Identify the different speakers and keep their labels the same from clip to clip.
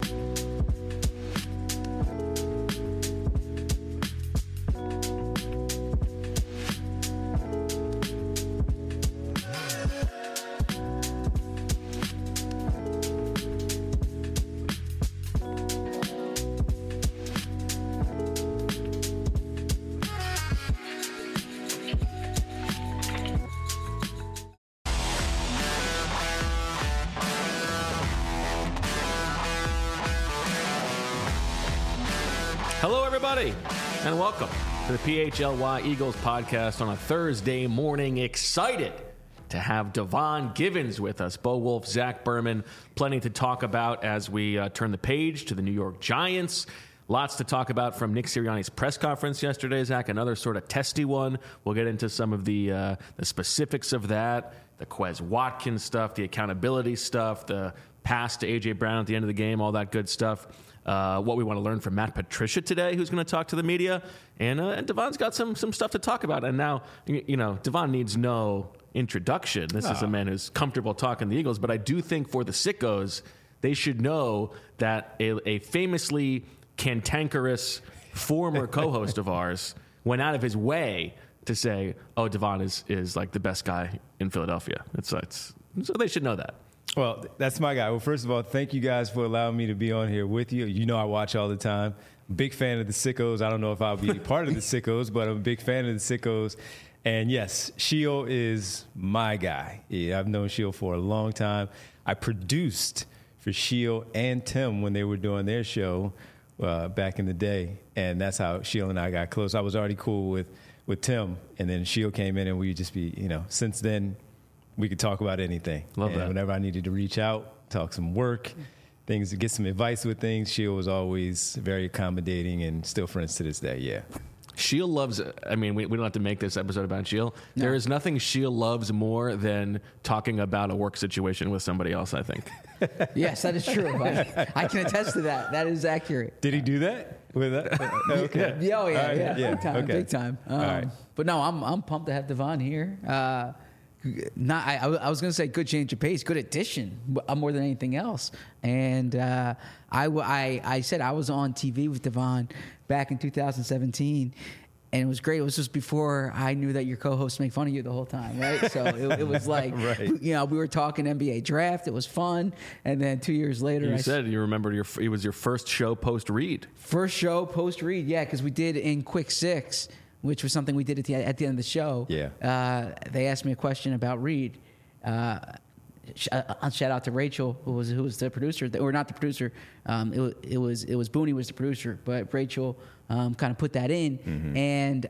Speaker 1: Hello, everybody, and welcome to the PHLY Eagles podcast on a Thursday morning. Excited to have Devon Givens with us. Bo Wulf, Zach Berman, plenty to talk about as we turn the page to the New York Giants. Lots to talk about from Nick Sirianni's press conference yesterday, Zach. Another sort of testy one. We'll get into some of the specifics of that, the Quez Watkins stuff, the accountability stuff, the pass to A.J. Brown at the end of the game, all that good stuff. What we want to learn from Matt Patricia today, who's going to talk to the media. And Devon's got some stuff to talk about. And now, you know, Devon needs no introduction. This is a man who's comfortable talking the Eagles. But I do think for the sickos, they should know that a famously cantankerous former co-host of ours went out of his way to say, oh, Devon is like the best guy in Philadelphia. So they should know that.
Speaker 2: Well, that's my guy. Well, first of all, thank you guys for allowing me to be on here with you. You know I watch all the time. Big fan of the Sickos. I don't know if I'll be part of the Sickos, but I'm a big fan of the Sickos. And yes, Sheil is my guy. Yeah, I've known Sheil for a long time. I produced for Sheil and Tim when they were doing their show back in the day, and that's how Sheil and I got close. I was already cool with Tim, and then Sheil came in, and we just be, you know, since then, we could talk about anything.
Speaker 1: Love that.
Speaker 2: Whenever I needed to reach out, talk some work, things, get some advice with things, Sheil was always very accommodating and still friends to this day, yeah.
Speaker 1: Sheil loves, I mean, we don't have to make this episode about Sheil. No. There is nothing Sheil loves more than talking about a work situation with somebody else, I think.
Speaker 3: Yes, that is true. I can attest to that. That is accurate.
Speaker 2: Did he do that? With that? Okay.
Speaker 3: Yeah.
Speaker 2: Yeah.
Speaker 3: Big time,
Speaker 2: Okay.
Speaker 3: big time.
Speaker 2: All right.
Speaker 3: But no, I'm pumped to have Devon here. I was going to say good change of pace, good addition, more than anything else. And I said I was on TV with Devon back in 2017, and it was great. It was just before I knew that your co-hosts make fun of you the whole time, right? So it was like,
Speaker 2: right.
Speaker 3: You know, we were talking NBA draft. It was fun. And then 2 years later,
Speaker 1: You said you remember it was your first show post-read.
Speaker 3: First show post-read, yeah, because we did in Quick Six, which was something we did at the end of the show.
Speaker 2: Yeah.
Speaker 3: They asked me a question about Reed. Shout out to Rachel, who was the producer, or not the producer. It was Booney was the producer, but Rachel kind of put that in, and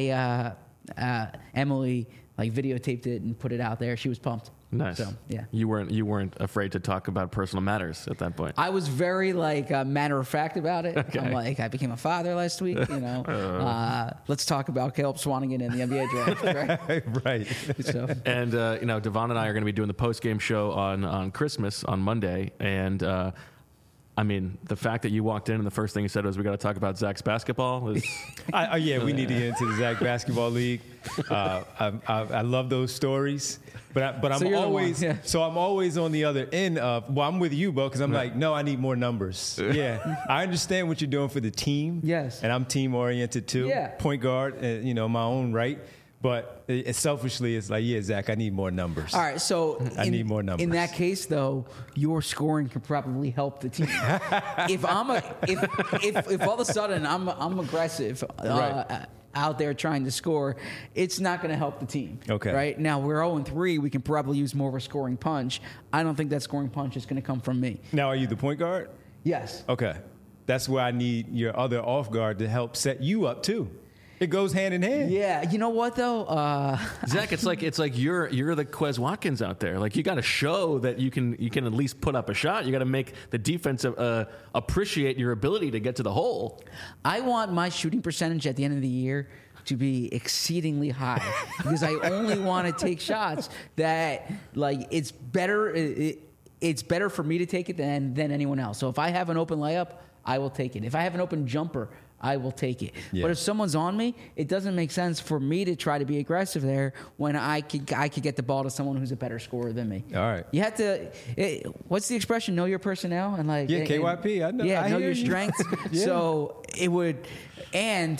Speaker 3: Emily videotaped it and put it out there. She was pumped.
Speaker 1: Nice.
Speaker 3: So, yeah.
Speaker 1: You weren't afraid to talk about personal matters at that point.
Speaker 3: I was very matter of fact about it.
Speaker 1: Okay.
Speaker 3: I'm like, I became a father last week. You know, let's talk about Caleb Swanigan in the NBA draft, right?
Speaker 2: Right.
Speaker 3: So.
Speaker 1: And you know, Devon and I are going to be doing the post game show on Christmas on Monday, and I mean, the fact that you walked in and the first thing you said was, "We got to talk about Zach's basketball." Is
Speaker 2: Yeah, we need to get into the Zach Basketball League. I love those stories, but I'm always so I'm always on the other end of. Well, I'm with you, Bo, because I'm like, no, I need more numbers. Yeah, I understand what you're doing for the team.
Speaker 3: Yes,
Speaker 2: and I'm team oriented too.
Speaker 3: Yeah,
Speaker 2: point guard, you know, my own right. But selfishly, it's like, yeah, Zach, I need more numbers.
Speaker 3: All right, so
Speaker 2: I need more numbers.
Speaker 3: In that case, though, your scoring could probably help the team. if all of a sudden I'm aggressive
Speaker 2: right.
Speaker 3: out there trying to score, it's not going to help the team.
Speaker 2: Okay.
Speaker 3: Right now we're 0-3. We can probably use more of a scoring punch. I don't think that scoring punch is going to come from me.
Speaker 2: Now, are you the point guard?
Speaker 3: Yes.
Speaker 2: Okay, that's where I need your other off guard to help set you up too. It goes hand in hand.
Speaker 3: Yeah, you know what though,
Speaker 1: Zach? It's like you're the Quez Watkins out there. Like, you got to show that you can at least put up a shot. You got to make the defense appreciate your ability to get to the hole.
Speaker 3: I want my shooting percentage at the end of the year to be exceedingly high because I only want to take shots that it's better. It's better for me to take it than anyone else. So if I have an open layup, I will take it. If I have an open jumper, I will take it.
Speaker 2: Yeah.
Speaker 3: But if someone's on me, it doesn't make sense for me to try to be aggressive there when I could get the ball to someone who's a better scorer than me.
Speaker 2: All right.
Speaker 3: You have to. What's the expression? Know your personnel and like.
Speaker 2: Yeah, KYP. I know.
Speaker 3: Yeah,
Speaker 2: I
Speaker 3: know
Speaker 2: hear
Speaker 3: your
Speaker 2: you.
Speaker 3: strengths.
Speaker 2: Yeah.
Speaker 3: So it would, and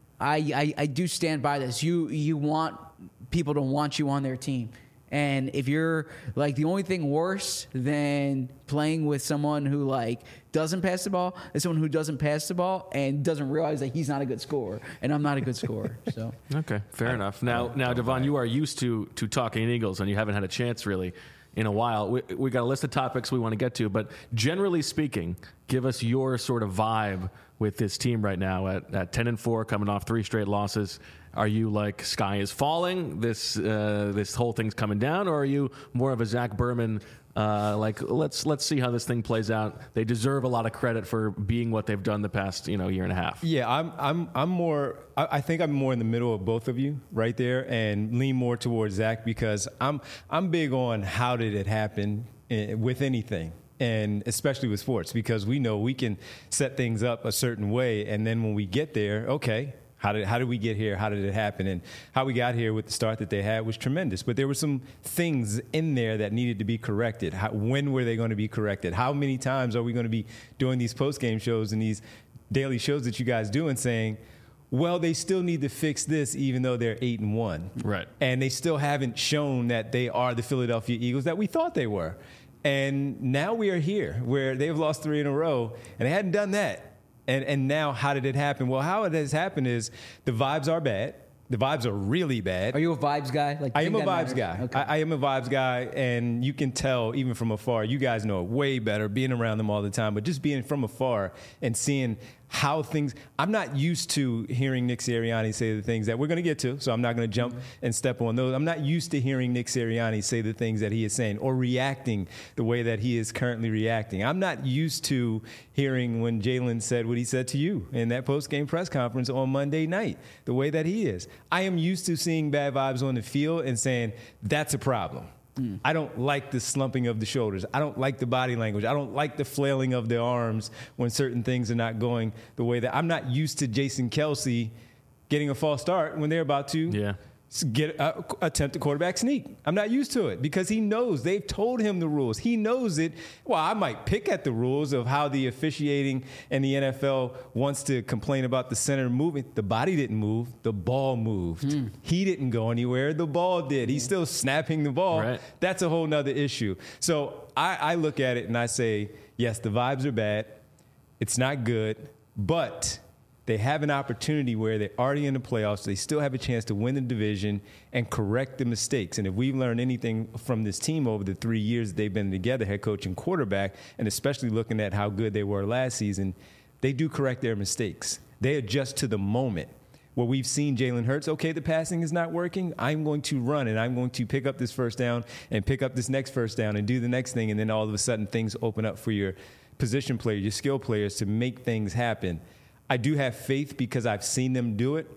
Speaker 3: I do stand by this. You want people to want you on their team. And if you're like, the only thing worse than playing with someone who like doesn't pass the ball is someone who doesn't pass the ball and doesn't realize that he's not a good scorer, and I'm not a good scorer. So
Speaker 1: Okay, fair enough. Now, Devon, you are used to talking Eagles, and you haven't had a chance really in a while. We got a list of topics we want to get to, but generally speaking, give us your sort of vibe with this team right now at 10-4, coming off 3 straight losses. Are you like sky is falling, this whole thing's coming down, or are you more of a Zach Berman? Like let's see how this thing plays out. They deserve a lot of credit for being what they've done the past year and a half.
Speaker 2: Yeah, I'm more. I think I'm more in the middle of both of you right there, and lean more towards Zach because I'm big on how did it happen with anything. And especially with sports, because we know we can set things up a certain way, and then when we get there, okay, how did we get here? How did it happen? And how we got here with the start that they had was tremendous. But there were some things in there that needed to be corrected. When were they going to be corrected? How many times are we going to be doing these post-game shows and these daily shows that you guys do and saying, well, they still need to fix this even though they're 8-1.
Speaker 1: Right.
Speaker 2: And they still haven't shown that they are the Philadelphia Eagles that we thought they were. And now we are here where they've lost 3 in a row, and they hadn't done that. And now how did it happen? Well, how it has happened is the vibes are bad. The vibes are really bad.
Speaker 3: are you a vibes guy? Like,
Speaker 2: I am a vibes guy.
Speaker 3: Okay.
Speaker 2: I am a vibes guy, and you can tell even from afar. You guys know it way better being around them all the time, but just being from afar and seeing how things. I'm not used to hearing Nick Sirianni say the things that we're going to get to, so I'm not going to jump and step on those. I'm not used to hearing Nick Sirianni say the things that he is saying or reacting the way that he is currently reacting. I'm not used to hearing when Jalen said what he said to you in that post-game press conference on Monday night, the way that he is. I am used to seeing bad vibes on the field and saying, that's a problem. I don't like the slumping of the shoulders. I don't like the body language. I don't like the flailing of the arms when certain things are not going the way that. I'm not used to Jason Kelce getting a false start when they're about to attempt a quarterback sneak. I'm not used to it because he knows. They've told him the rules. He knows it. Well, I might pick at the rules of how the officiating and the NFL wants to complain about the center moving. The body didn't move. The ball moved. He didn't go anywhere. The ball did. He's still snapping the ball.
Speaker 1: Right.
Speaker 2: That's a whole nother issue. So I look at it and I say, yes, the vibes are bad. It's not good, but they have an opportunity where they're already in the playoffs. They still have a chance to win the division and correct the mistakes. And if we've learned anything from this team over the 3 years they've been together, head coach and quarterback, and especially looking at how good they were last season, they do correct their mistakes. They adjust to the moment. Where we've seen Jalen Hurts, okay, the passing is not working. I'm going to run, and I'm going to pick up this first down and pick up this next first down and do the next thing. And then all of a sudden things open up for your position players, your skill players to make things happen. I do have faith because I've seen them do it,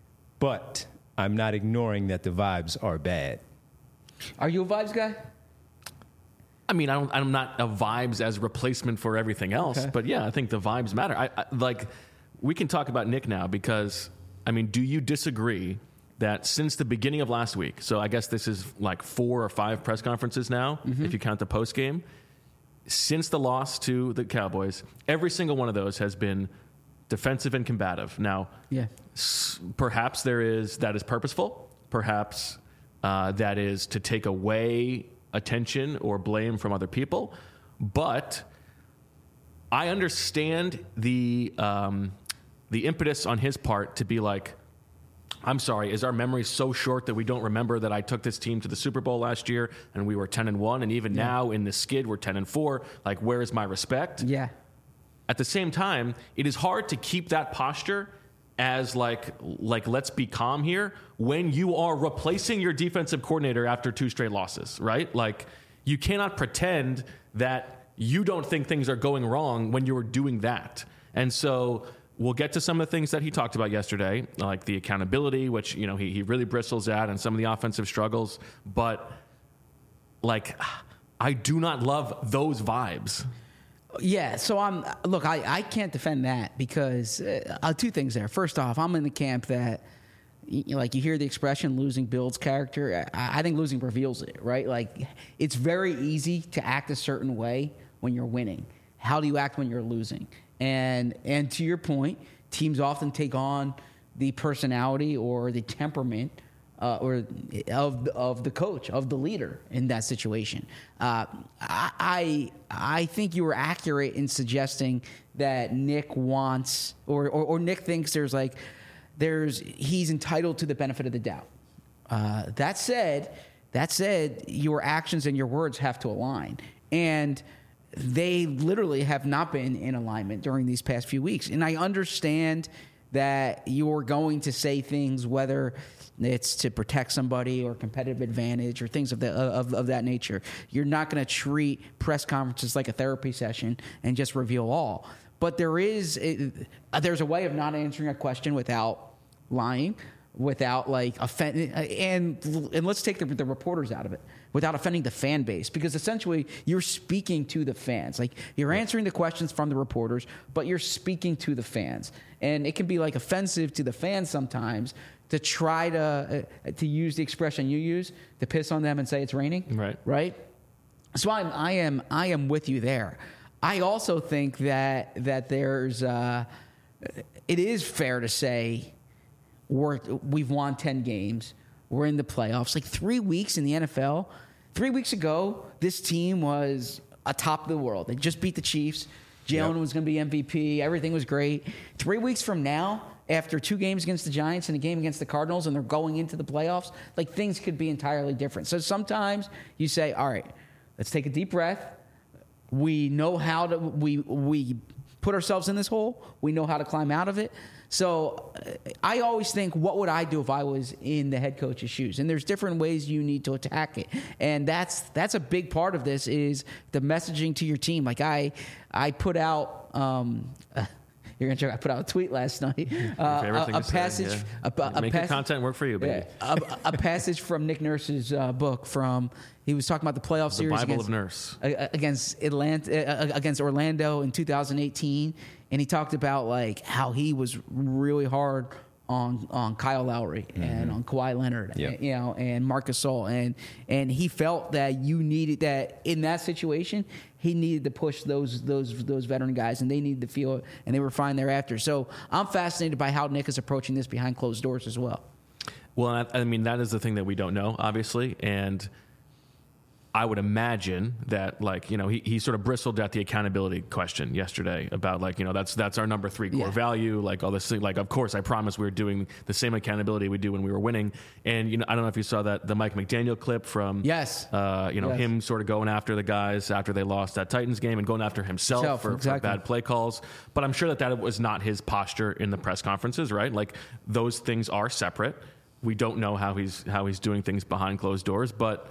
Speaker 2: but I'm not ignoring that the vibes are bad.
Speaker 3: Are you a vibes guy?
Speaker 1: I mean, I'm not a vibes as replacement for everything else,
Speaker 3: Okay.
Speaker 1: but yeah, I think the vibes matter. I like, we can talk about Nick now because, I mean, do you disagree that since the beginning of last week, so I guess this is like 4 or 5 press conferences now, if you count the post game, since the loss to the Cowboys, every single one of those has been defensive and combative. Now,
Speaker 3: Yeah.
Speaker 1: perhaps that is purposeful. Perhaps that is to take away attention or blame from other people. But I understand the impetus on his part to be like, I'm sorry, is our memory so short that we don't remember that I took this team to the Super Bowl last year and we were 10-1, and even now in the skid we're 10-4? Like, where is my respect?
Speaker 3: Yeah.
Speaker 1: At the same time, it is hard to keep that posture as like let's be calm here when you are replacing your defensive coordinator after 2 straight losses, right? Like, you cannot pretend that you don't think things are going wrong when you're doing that. And so we'll get to some of the things that he talked about yesterday, like the accountability, which, he really bristles at, and some of the offensive struggles. But, like, I do not love those vibes.
Speaker 3: Yeah, so I can't defend that because two things there. First off, I'm in the camp that, like, you hear the expression losing builds character. I think losing reveals it, right? Like, it's very easy to act a certain way when you're winning. How do you act when you're losing? And to your point, teams often take on the personality or the temperament or of the coach, of the leader in that situation. I think you were accurate in suggesting that Nick wants or Nick thinks he's entitled to the benefit of the doubt. That said, your actions and your words have to align, and they literally have not been in alignment during these past few weeks. And I understand that you're going to say things, whether it's to protect somebody or competitive advantage or things of that nature. You're not going to treat press conferences like a therapy session and just reveal all. But there's a way of not answering a question without lying, without like offending, and let's take the reporters out of it, without offending the fan base, because essentially you're speaking to the fans. Like, you're answering the questions from the reporters, but you're speaking to the fans, and it can be like offensive to the fans sometimes to try to use the expression you use to piss on them and say it's raining, right? So I am with you there. I also think that there's it is fair to say we've won 10 games. We're in the playoffs. Like 3 weeks in the NFL. 3 weeks ago, this team was atop the world. They just beat the Chiefs. Jalen was going to be MVP. Everything was great. 3 weeks from now, after 2 games against the Giants and a game against the Cardinals, and they're going into the playoffs, like, things could be entirely different. So sometimes you say, all right, let's take a deep breath. We know how to we put ourselves in this hole. We know how to climb out of it. So I always think, what would I do if I was in the head coach's shoes? And there's different ways you need to attack it. And that's a big part of this, is the messaging to your team. Like, I put out you're gonna I put out a tweet last night. A passage.
Speaker 1: Make your content work for you, baby.
Speaker 3: A passage from Nick Nurse's book. He was talking about the playoff series against Orlando in 2018, and he talked about like how he was really hard on Kyle Lowry and on Kawhi Leonard, and Marc Gasol, and he felt that you needed that in that situation. He needed to push those veteran guys, and they needed to feel it, and they were fine thereafter. So I'm fascinated by how Nick is approaching this behind closed doors as well.
Speaker 1: Well, I mean, that is the thing that we don't know, obviously, and I would imagine that, like, he sort of bristled at the accountability question yesterday about, like, that's our number 3 core value, like all this thing. Like, of course, I promise we're doing the same accountability we do when we were winning. And, I don't know if you saw the Mike McDaniel clip from, him sort of going after the guys after they lost that Titans game and going after himself for bad play calls. But I'm sure that was not his posture in the press conferences, right? Like, those things are separate. We don't know how he's doing things behind closed doors, but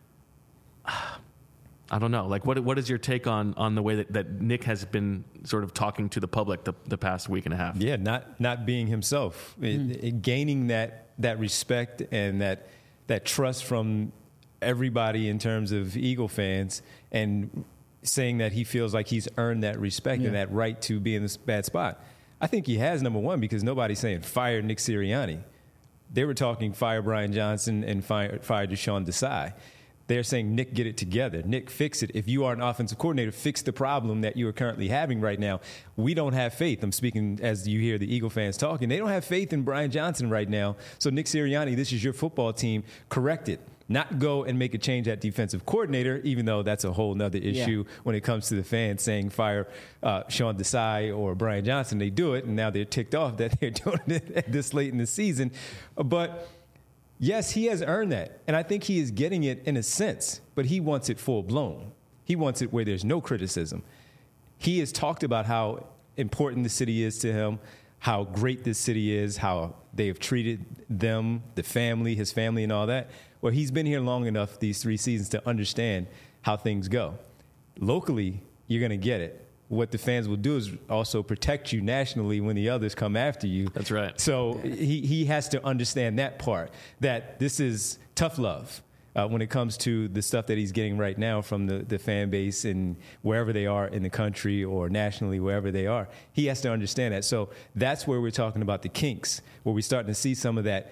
Speaker 1: I don't know. Like, what is your take on the way that Nick has been sort of talking to the public the past week and a half?
Speaker 2: Yeah, not being himself, gaining that respect and that trust from everybody in terms of Eagle fans, and saying that he feels like he's earned that respect and that right to be in this bad spot. I think he has, number one, because nobody's saying fire Nick Sirianni. They were talking fire Brian Johnson and fire Deshaun Desai. They're saying, Nick, get it together. Nick, fix it. If you are an offensive coordinator, fix the problem that you are currently having right now. We don't have faith. I'm speaking as you hear the Eagle fans talking. They don't have faith in Brian Johnson right now. So, Nick Sirianni, this is your football team. Correct it. Not go and make a change at defensive coordinator, even though that's a whole nother issue when it comes to the fans saying fire Sean Desai or Brian Johnson. They do it, and now they're ticked off that they're doing it this late in the season. But yes, he has earned that, and I think he is getting it in a sense, but he wants it full-blown. He wants it where there's no criticism. He has talked about how important the city is to him, how great this city is, how they have treated them, the family, his family, and all that. Well, he's been here long enough these 3 seasons to understand how things go. Locally, you're going to get it. What the fans will do is also protect you nationally when the others come after you.
Speaker 1: That's right.
Speaker 2: So he has to understand that part, that this is tough love. when it comes to the stuff that he's getting right now from the fan base and wherever they are in the country or nationally, wherever they are. He has to understand that. So that's where we're talking about the kinks, where we're starting to see some of that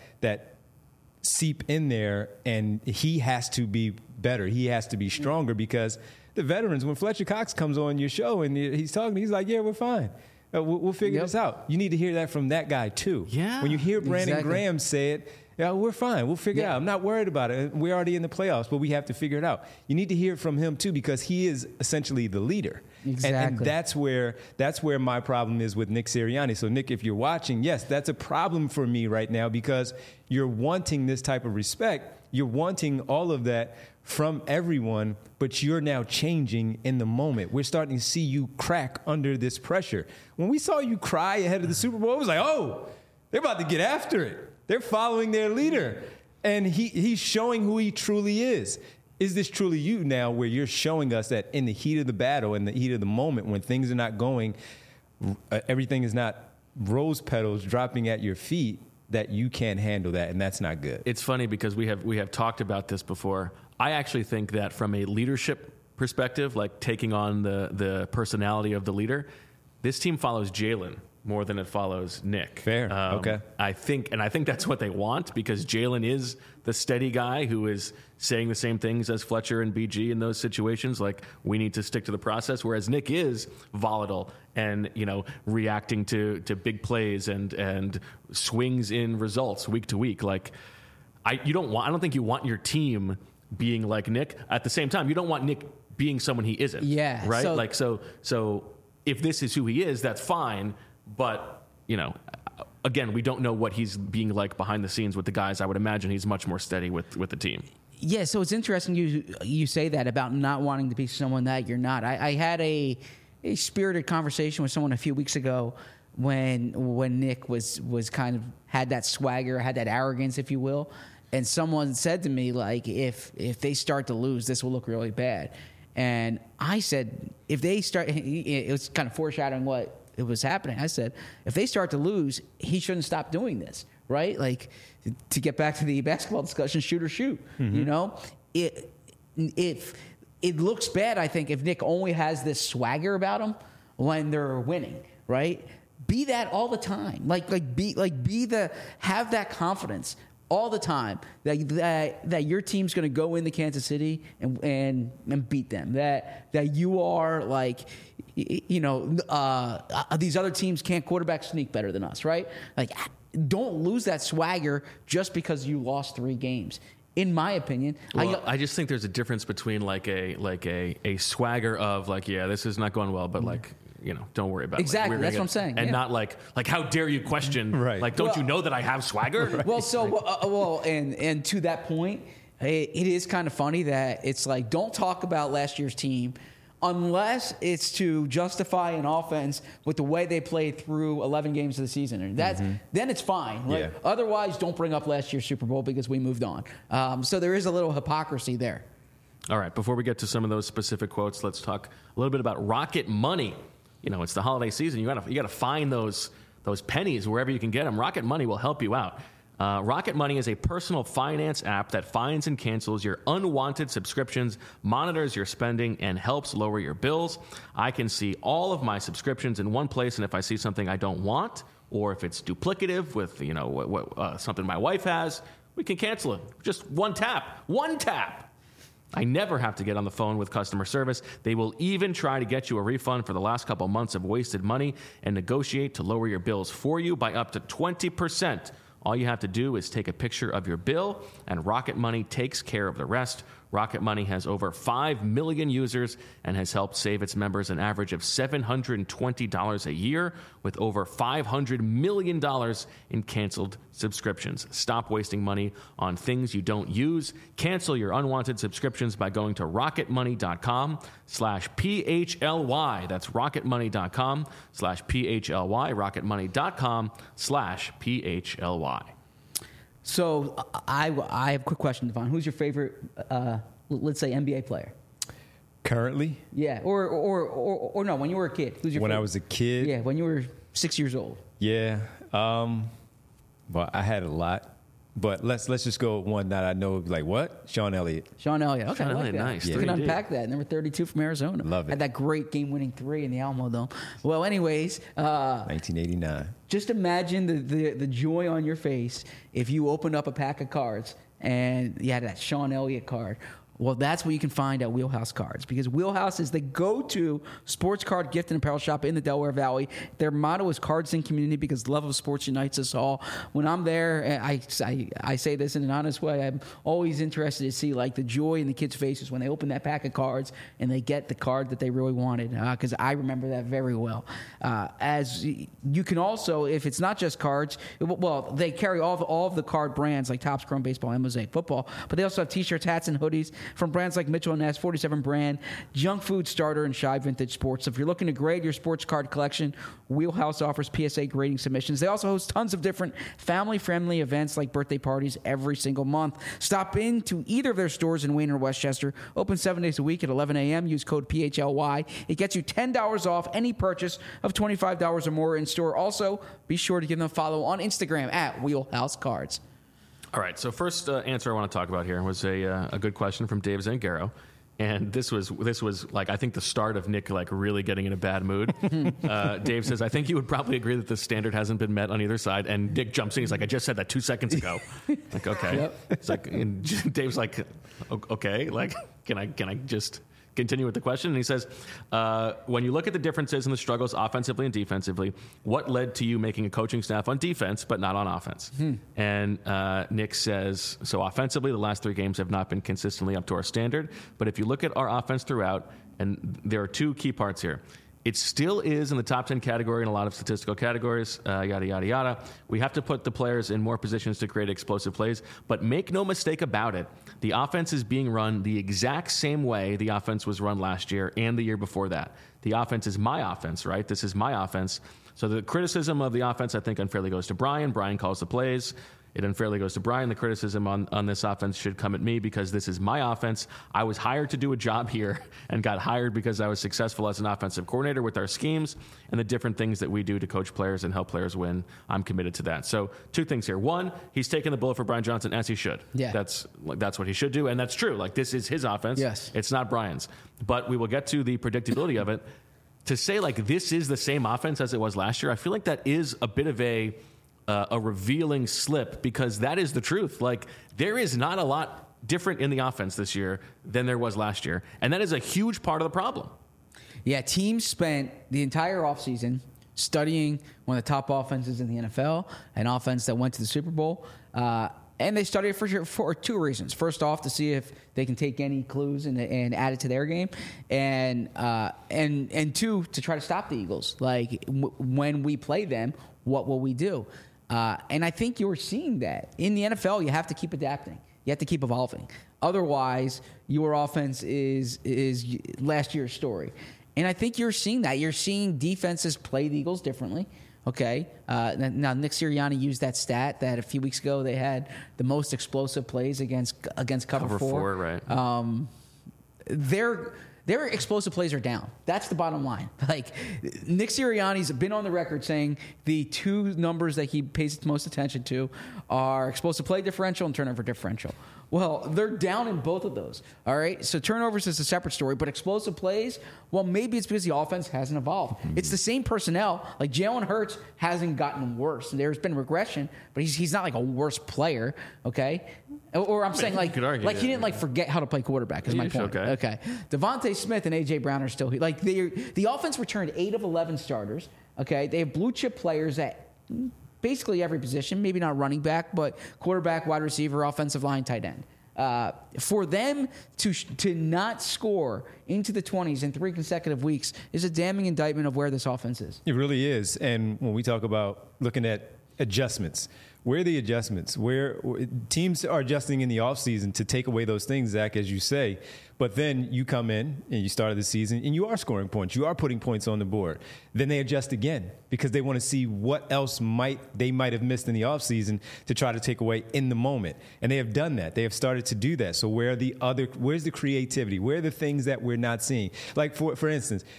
Speaker 2: seep in there, and he has to be better. He has to be stronger, because the veterans, when Fletcher Cox comes on your show and he's talking, he's like, yeah, we're fine. We'll figure this out. You need to hear that from that guy too.
Speaker 1: Yeah.
Speaker 2: When you hear Brandon Graham say it, yeah, we're fine. We'll figure it out. I'm not worried about it. We're already in the playoffs, but we have to figure it out. You need to hear it from him too, because he is essentially the leader.
Speaker 3: Exactly.
Speaker 2: And that's where my problem is with Nick Sirianni. So Nick, if you're watching, yes, that's a problem for me right now, because you're wanting this type of respect. You're wanting all of that from everyone, but you're now changing in the moment. We're starting to see you crack under this pressure. When we saw you cry ahead of the Super Bowl, it was like, oh, they're about to get after it. They're following their leader, and he's showing who he truly is. Is this truly you now, where you're showing us that in the heat of the battle, in the heat of the moment, when things are not going, everything is not rose petals dropping at your feet, that you can't handle that, and that's not good.
Speaker 1: It's funny because we have talked about this before. I actually think that from a leadership perspective, like taking on the personality of the leader, this team follows Jalen more than it follows Nick.
Speaker 2: Fair. Okay.
Speaker 1: I think that's what they want, because Jalen is the steady guy who is saying the same things as Fletcher and BG in those situations. Like, we need to stick to the process. Whereas Nick is volatile and, reacting to big plays and swings in results week to week. Like, I don't think you want your team being like Nick. At the same time, you don't want Nick being someone he isn't.
Speaker 3: Yeah.
Speaker 1: Right. So if this is who he is, that's fine. But, again, we don't know what he's being like behind the scenes with the guys. I would imagine he's much more steady with the team.
Speaker 3: Yeah, so it's interesting you say that about not wanting to be someone that you're not. I had a spirited conversation with someone a few weeks ago when Nick was kind of had that swagger, had that arrogance, if you will. And someone said to me, like, if they start to lose, this will look really bad. And I said, if they start, it was kind of foreshadowing what it was happening. I said, if they start to lose, he shouldn't stop doing this, right? Like, to get back to the basketball discussion, shoot or shoot. Mm-hmm. It looks bad, I think, if Nick only has this swagger about him when they're winning, right? Be that all the time. Have that confidence all the time that your team's going to go into Kansas City and beat them. That you are like, these other teams can't quarterback sneak better than us, right? Like, don't lose that swagger just because you lost 3 games. In my opinion,
Speaker 1: I just think there's a difference between like a swagger of like, yeah, this is not going well, but like, don't worry about it.
Speaker 3: Exactly. That's what I'm saying.
Speaker 1: And not like, how dare you question,
Speaker 2: right.
Speaker 1: Like, don't you know that I have swagger?
Speaker 2: Right.
Speaker 3: Well, and to that point, it is kind of funny that it's like, don't talk about last year's team unless it's to justify an offense with the way they played through 11 games of the season. And then it's fine. Right?
Speaker 2: Yeah.
Speaker 3: Otherwise, don't bring up last year's Super Bowl because we moved on. So there is a little hypocrisy there.
Speaker 1: All right. Before we get to some of those specific quotes, let's talk a little bit about Rocket Money. It's the holiday season. You gotta find those pennies wherever you can get them. Rocket Money will help you out. Rocket Money is a personal finance app that finds and cancels your unwanted subscriptions, monitors your spending, and helps lower your bills. I can see all of my subscriptions in one place, and if I see something I don't want, or if it's duplicative with something my wife has, we can cancel it. Just one tap. One tap. I never have to get on the phone with customer service. They will even try to get you a refund for the last couple months of wasted money and negotiate to lower your bills for you by up to 20%. All you have to do is take a picture of your bill, and Rocket Money takes care of the rest. Rocket Money has over 5 million users and has helped save its members an average of $720 a year, with over $500 million in canceled subscriptions. Stop wasting money on things you don't use. Cancel your unwanted subscriptions by going to rocketmoney.com/PHLY. That's rocketmoney.com/PHLY. rocketmoney.com/PHLY.
Speaker 3: So I have a quick question, Devon. Who's your favorite, let's say, NBA player?
Speaker 2: Currently?
Speaker 3: Yeah, or no, when you were a kid. Who's your
Speaker 2: when
Speaker 3: favorite?
Speaker 2: I was a kid?
Speaker 3: Yeah, when you were 6 years old.
Speaker 2: Yeah. Well, I had a lot. But let's just go with one that I know, like what? Sean Elliott.
Speaker 3: Sean Elliott. Okay,
Speaker 1: Sean
Speaker 3: I like
Speaker 1: Elliott,
Speaker 3: that.
Speaker 1: nice.
Speaker 3: You can
Speaker 1: 3D.
Speaker 3: unpack that. Number 32 from Arizona.
Speaker 2: Love it.
Speaker 3: Had that great game-winning 3 in the Alamo Dome. Well, anyways,
Speaker 2: 1989.
Speaker 3: just imagine the joy on your face if you opened up a pack of cards and you had that Sean Elliott card. Well, that's what you can find at Wheelhouse Cards, because Wheelhouse is the go-to sports card gift and apparel shop in the Delaware Valley. Their motto is cards in community, because love of sports unites us all. When I'm there, I say this in an honest way, I'm always interested to see like the joy in the kids' faces when they open that pack of cards and they get the card that they really wanted, because I remember that very well. As you can also, if it's not just cards, well, they carry all of the card brands like Topps, Chrome Baseball, and Mosaic Football, but they also have T-shirts, hats, and hoodies from brands like Mitchell & Ness, 47 Brand, Junk Food Starter, and Shy Vintage Sports. So if you're looking to grade your sports card collection, Wheelhouse offers PSA grading submissions. They also host tons of different family-friendly events like birthday parties every single month. Stop into either of their stores in Wayne or Westchester. Open 7 days a week at 11 a.m. Use code PHLY. It gets you $10 off any purchase of $25 or more in store. Also, be sure to give them a follow on Instagram at Wheelhouse Cards.
Speaker 1: All right, so first answer I want to talk about here was a good question from Dave Zangaro. And this was like, I think the start of Nick like really getting in a bad mood. Dave says, I think you would probably agree that the standard hasn't been met on either side. And Nick jumps in. He's like, I just said that 2 seconds ago. Like, okay.
Speaker 3: Yep.
Speaker 1: It's like, and Dave's like, okay, like, can I just continue with the question? And he says, when you look at the differences in the struggles offensively and defensively, what led to you making a coaching staff on defense but not on offense? And Nick says, so offensively, the last 3 games have not been consistently up to our standard. But if you look at our offense throughout, and there are 2 key parts here. It still is in the top 10 category in a lot of statistical categories, yada, yada, yada. We have to put the players in more positions to create explosive plays. But make no mistake about it, the offense is being run the exact same way the offense was run last year and the year before that. The offense is my offense, right? This is my offense. So the criticism of the offense, I think, unfairly goes to Brian. Brian calls the plays. It unfairly goes to Brian. The criticism on this offense should come at me because this is my offense. I was hired to do a job here and got hired because I was successful as an offensive coordinator with our schemes and the different things that we do to coach players and help players win. I'm committed to that. So 2 things here. 1, he's taking the bullet for Brian Johnson, as he should.
Speaker 3: Yeah.
Speaker 1: That's what he should do, and that's true. Like, this is his offense.
Speaker 3: Yes.
Speaker 1: It's not Brian's. But we will get to the predictability of it. To say, like, this is the same offense as it was last year, I feel like that is a bit of a revealing slip, because that is the truth. Like, there is not a lot different in the offense this year than there was last year, and that is a huge part of the problem.
Speaker 3: Yeah, teams spent the entire offseason studying one of the top offenses in the NFL, an offense that went to the Super Bowl, and they studied it for 2 reasons. First off, to see if they can take any clues and add it to their game, and 2, to try to stop the Eagles. Like, when we play them, what will we do? And I think you're seeing that. In the NFL, you have to keep adapting. You have to keep evolving. Otherwise, your offense is last year's story. And I think you're seeing that. You're seeing defenses play the Eagles differently. Okay. Now, Nick Sirianni used that stat that a few weeks ago they had the most explosive plays against cover 4.
Speaker 1: Right.
Speaker 3: Their explosive plays are down. That's the bottom line. Like, Nick Sirianni's been on the record saying the 2 numbers that he pays the most attention to are explosive play differential and turnover differential. Well, they're down in both of those. All right. So turnovers is a separate story, but explosive plays, well, maybe it's because the offense hasn't evolved. It's the same personnel. Like, Jalen Hurts hasn't gotten worse. There's been regression, but he's not like a worse player. Okay. Or I'm saying like he didn't forget how to play quarterback is my point. Okay. Devontae Smith and A.J. Brown are still here. Like, the offense returned 8 of 11 starters. Okay. They have blue chip players at basically every position, maybe not running back, but quarterback, wide receiver, offensive line, tight end. For them to not score into the 20s in 3 consecutive weeks is a damning indictment of where this offense is.
Speaker 2: It really is. And when we talk about looking at adjustments, where are the adjustments? Where teams are adjusting in the offseason to take away those things, Zach, as you say. But then you come in and you started the season and you are scoring points. You are putting points on the board. Then they adjust again because they want to see what else they might have missed in the offseason to try to take away in the moment. And they have done that. They have started to do that. So where's the creativity? Where are the things that we're not seeing? Like, for instance,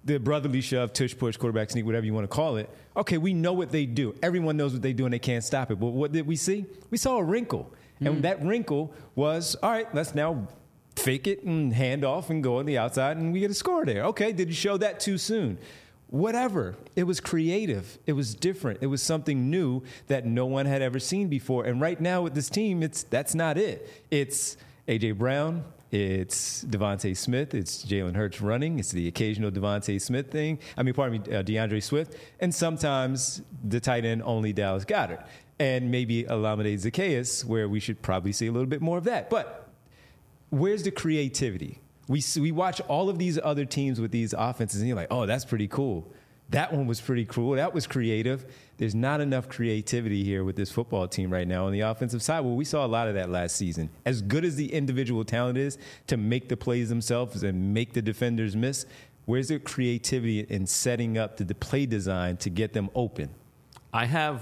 Speaker 2: the brotherly shove, tush push, quarterback sneak, whatever you want to call it. Okay, we know what they do. Everyone knows what they do, and they can't stop it. But what did we see? We saw a wrinkle. And that wrinkle was, all right, let's now fake it and hand off and go on the outside, and we get a score there. Okay, did you show that too soon? Whatever. It was creative. It was different. It was something new that no one had ever seen before. And right now with this team, that's not it. It's A.J. Brown. It's Devontae Smith. It's Jalen Hurts running. It's the occasional Devontae Smith thing. DeAndre Swift. And sometimes the tight end only Dallas Goedert. And maybe Olamide Zaccheaus, where we should probably see a little bit more of that. But where's the creativity? We watch all of these other teams with these offenses, and you're like, oh, that's pretty cool. That one was pretty cool. That was creative. There's not enough creativity here with this football team right now on the offensive side. Well, we saw a lot of that last season. As good as the individual talent is to make the plays themselves and make the defenders miss, where's the creativity in setting up the play design to get them open?
Speaker 1: I have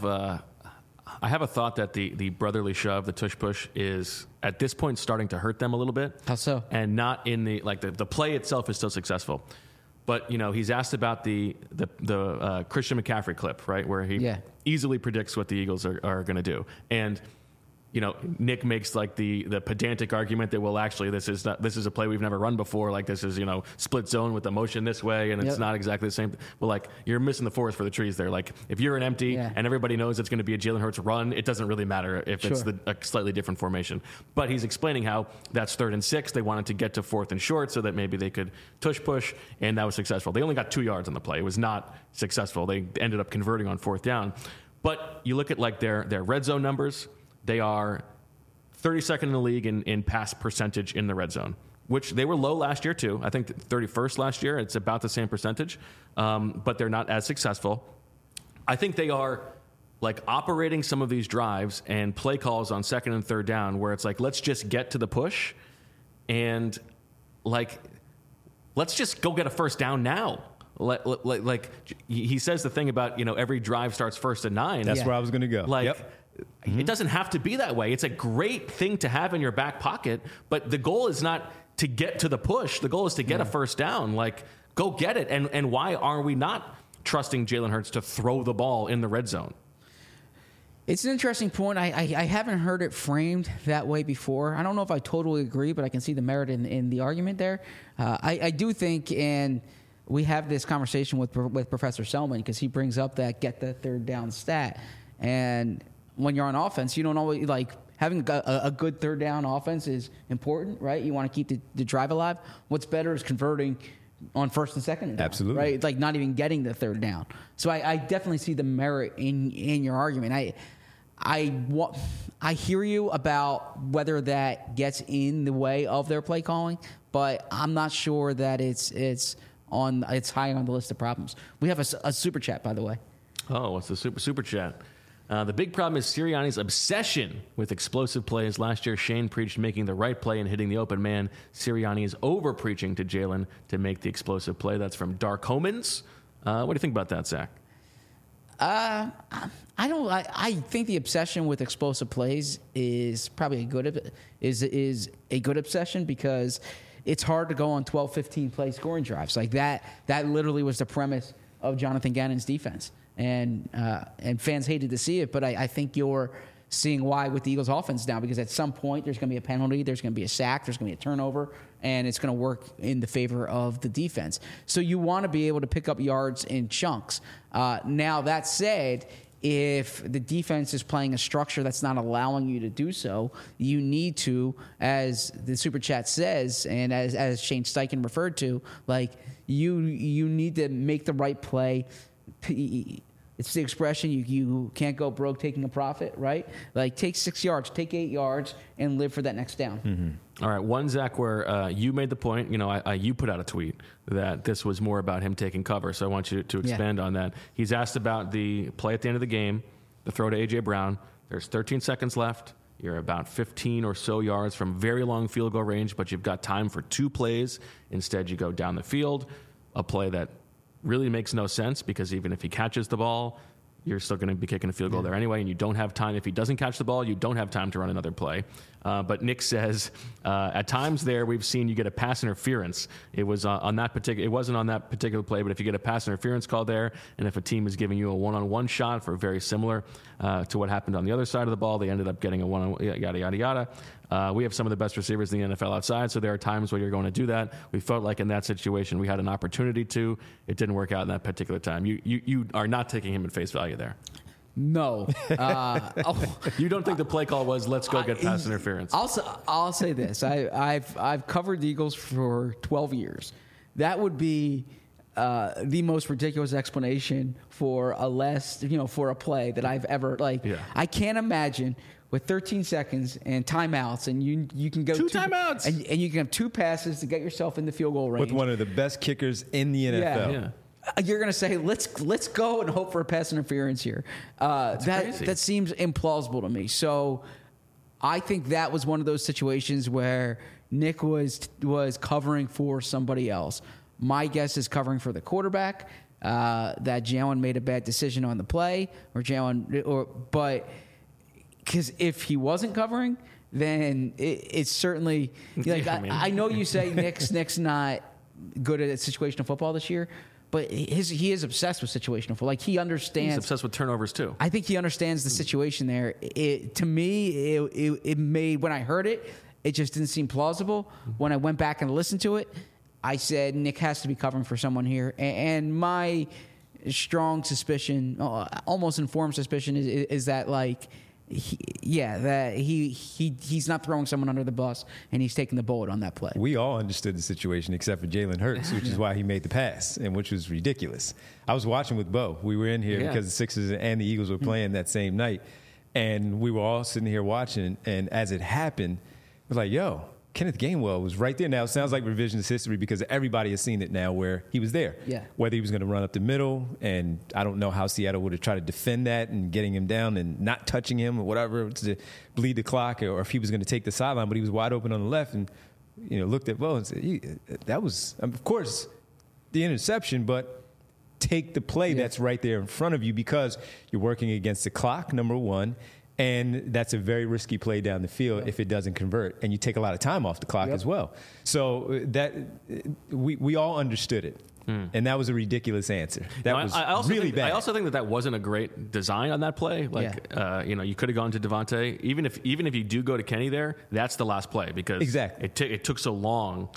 Speaker 1: a thought that the brotherly shove, the tush push, is at this point starting to hurt them a little bit.
Speaker 3: How so?
Speaker 1: And not in the play itself is still successful, but he's asked about the Christian McCaffrey clip, right, where he easily predicts what the Eagles are going to do, and Nick makes like the pedantic argument that, well, actually this is a play we've never run before. Like this is, split zone with the motion this way. And it's not exactly the same. Well, like you're missing the forest for the trees there. Like if you're an empty and everybody knows it's going to be a Jalen Hurts run, it doesn't really matter if it's a slightly different formation. But he's explaining how that's 3rd and 6. They wanted to get to 4th and short so that maybe they could tush push. And that was successful. They only got 2 yards on the play. It was not successful. They ended up converting on 4th down. But you look at like their red zone numbers. They are 32nd in the league in pass percentage in the red zone, which they were low last year too. I think 31st last year. It's about the same percentage, but they're not as successful. I think they are like operating some of these drives and play calls on 2nd and 3rd down where it's like, let's just get to the push and like, let's just go get a 1st down now. Like he says the thing about, every drive starts 1st and 9.
Speaker 2: That's where I was going to go.
Speaker 1: It doesn't have to be that way. It's a great thing to have in your back pocket, but the goal is not to get to the push. The goal is to get a 1st down. Like, go get it. And why are we not trusting Jalen Hurts to throw the ball in the red zone?
Speaker 3: It's an interesting point. I haven't heard it framed that way before. I don't know if I totally agree, but I can see the merit in the argument there. I do think, and we have this conversation with Professor Selman because he brings up that get the 3rd down stat. And when you're on offense, you don't always like having a good 3rd down offense is important, right? You want to keep the drive alive. What's better is converting on 1st and 2nd down,
Speaker 2: absolutely,
Speaker 3: right? Like not even getting the 3rd down. So I definitely see the merit in your argument. I hear you about whether that gets in the way of their play calling, but I'm not sure that it's high on the list of problems. We have a super chat, by the way.
Speaker 1: Oh, what's the super chat? The big problem is Sirianni's obsession with explosive plays. Last year, Shane preached making the right play and hitting the open man. Sirianni is over-preaching to Jalen to make the explosive play. That's from Dark Homans. What do you think about that, Zach?
Speaker 3: I think the obsession with explosive plays is probably a good obsession because it's hard to go on 12, 15 play scoring drives. Like that literally was the premise of Jonathan Gannon's defense. And fans hated to see it, but I think you're seeing why with the Eagles offense now, because at some point there's going to be a penalty, there's going to be a sack, there's going to be a turnover, and it's going to work in the favor of the defense. So you want to be able to pick up yards in chunks. Now, that said, if the defense is playing a structure that's not allowing you to do so, you need to, as the Super Chat says, and as Shane Steichen referred to, like you need to make the right play. It's the expression, you can't go broke taking a profit, right? Like take 6 yards, take 8 yards, and live for that next down.
Speaker 1: Mm-hmm. All right, one, Zach, where you made the point, you put out a tweet that this was more about him taking cover, so I want you to expand on that. He's asked about the play at the end of the game, the throw to A.J. Brown. There's 13 seconds left. You're about 15 or so yards from very long field goal range, but you've got time for 2 plays. Instead, you go down the field, a play that really makes no sense because even if he catches the ball, you're still going to be kicking a field goal there anyway, and you don't have time. If he doesn't catch the ball, you don't have time to run another play. But Nick says at times there we've seen you get a pass interference. It was it wasn't on that particular play, but if you get a pass interference call there, and if a team is giving you a one-on-one shot for very similar to what happened on the other side of the ball, they ended up getting a one-on-one, yada yada yada. We have some of the best receivers in the NFL outside, so there are times where you're going to do that. We felt like in that situation we had an opportunity to. It didn't work out in that particular time. You are not taking him at face value there.
Speaker 3: No.
Speaker 1: You don't think the play call was let's go get pass interference?
Speaker 3: I'll say this. I've covered the Eagles for 12 years. That would be the most ridiculous explanation for for a play that I've ever I can't imagine with 13 seconds and timeouts, and you can go
Speaker 1: two timeouts,
Speaker 3: and you can have two passes to get yourself in the field goal range
Speaker 2: with one of the best kickers in the NFL.
Speaker 1: Yeah.
Speaker 3: You're going to say, let's go and hope for a pass interference here. That seems implausible to me. So I think that was one of those situations where Nick was covering for somebody else. My guess is covering for the quarterback, that Jalen made a bad decision on the play, but because if he wasn't covering, then it's certainly I know you say Nick's not good at situational football this year. But he is obsessed with situational football. Like, he understands.
Speaker 1: He's obsessed with turnovers, too.
Speaker 3: I think he understands the situation there. To me, it made, when I heard it, it just didn't seem plausible. When I went back and listened to it, I said, Nick has to be covering for someone here. And my strong suspicion, almost informed suspicion, is that, he's not throwing someone under the bus, and he's taking the bullet on that play.
Speaker 2: We all understood the situation except for Jalen Hurts, which is why he made the pass, and which was ridiculous. I was watching with Bo. We were in here because the Sixers and the Eagles were playing that same night, and we were all sitting here watching, and as it happened, we're like, yo, Kenneth Gainwell was right there. Now, it sounds like revisionist history because everybody has seen it now where he was there.
Speaker 3: Yeah.
Speaker 2: Whether he was going to run up the middle, and I don't know how Seattle would have tried to defend that and getting him down and not touching him or whatever to bleed the clock, or if he was going to take the sideline, but he was wide open on the left and looked at Bo and said, that was, of course, the interception, but take the play that's right there in front of you because you're working against the clock, number one. And that's a very risky play down the field if it doesn't convert, and you take a lot of time off the clock as well. So that we all understood it, and that was a ridiculous answer. That was really bad.
Speaker 1: I also think that wasn't a great design on that play. You could have gone to Devontae. Even if you do go to Kenny there, that's the last play because it took so long.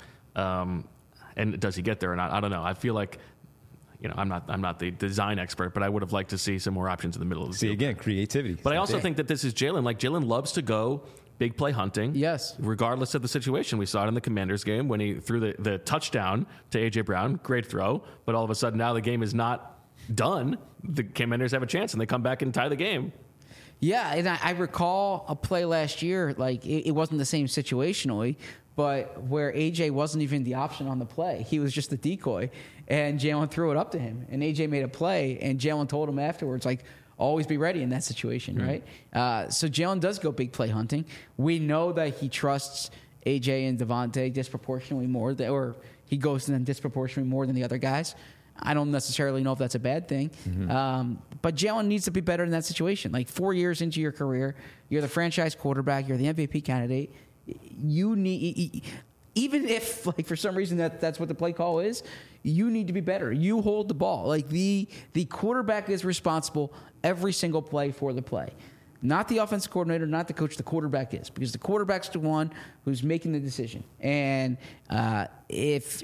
Speaker 1: And does he get there or not? I don't know. I feel like. I'm not the design expert, but I would have liked to see some more options in the middle of the field.
Speaker 2: Again, creativity.
Speaker 1: But I also think that this is Jalen. Like, Jalen loves to go big play hunting.
Speaker 3: Yes.
Speaker 1: Regardless of the situation. We saw it in the Commanders game when he threw the touchdown to A.J. Brown. Great throw. But all of a sudden now the game is not done. The Commanders have a chance, and they come back and tie the game.
Speaker 3: Yeah, and I recall a play last year, like it wasn't the same situationally, but where AJ wasn't even the option on the play. He was just the decoy, and Jalen threw it up to him, and AJ made a play, and Jalen told him afterwards, like, always be ready in that situation, right? So Jalen does go big play hunting. We know that he trusts AJ and Devontae disproportionately more, or he goes to them disproportionately more than the other guys. I don't necessarily know if that's a bad thing. But Jalen needs to be better in that situation. Like, 4 years into your career, you're the franchise quarterback, you're the MVP candidate. You need, even if, like, for some reason that's what the play call is, you need to be better. You hold the ball. Like, the quarterback is responsible every single play for the play. Not the offensive coordinator, not the coach. The quarterback is, because the quarterback's the one who's making the decision. And if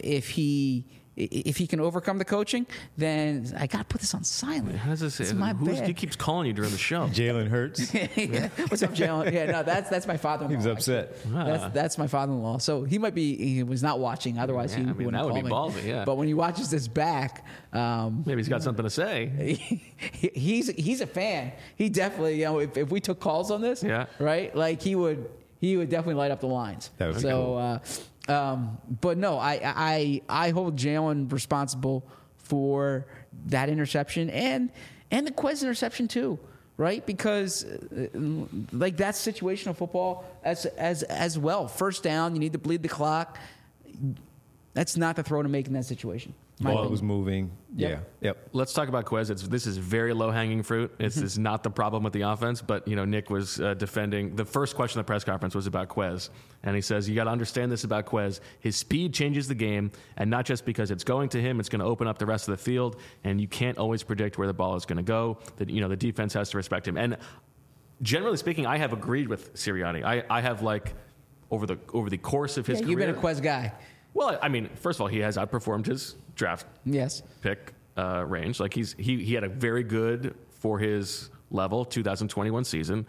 Speaker 3: he can overcome the coaching, then I got to put this on silent.
Speaker 1: How does this?
Speaker 3: It's my bad.
Speaker 1: He keeps calling you during the show.
Speaker 2: Jalen Hurts.
Speaker 3: What's up, Jalen? Yeah, no, that's my father-in-law.
Speaker 2: He was upset.
Speaker 3: That's my father-in-law. So he was not watching. Otherwise, he wouldn't
Speaker 1: that would
Speaker 3: call
Speaker 1: be
Speaker 3: me.
Speaker 1: ballsy. Yeah.
Speaker 3: But when he watches this back,
Speaker 1: maybe he's got something to say.
Speaker 3: He's a fan. He definitely, if we took calls on this, right, like he would definitely light up the lines.
Speaker 2: That would be
Speaker 3: cool. But no, I hold Jalen responsible for that interception and the Quez interception too, right? Because like, that's situational football as well. First down, you need to bleed the clock. That's not the throw to make in that situation.
Speaker 2: Ball was moving.
Speaker 3: Yep.
Speaker 2: Yep.
Speaker 1: Let's talk about Quez. This is very low-hanging fruit. This is not the problem with the offense, but, Nick was defending. The first question at the press conference was about Quez, and he says, you got to understand this about Quez. His speed changes the game, and not just because it's going to him, it's going to open up the rest of the field, and you can't always predict where the ball is going to go. The defense has to respect him. And generally speaking, I have agreed with Sirianni. I have, over the course of his career.
Speaker 3: You've been a Quez guy.
Speaker 1: Well, I mean, first of all, he has outperformed his draft pick range. He had a very good, for his level, 2021 season.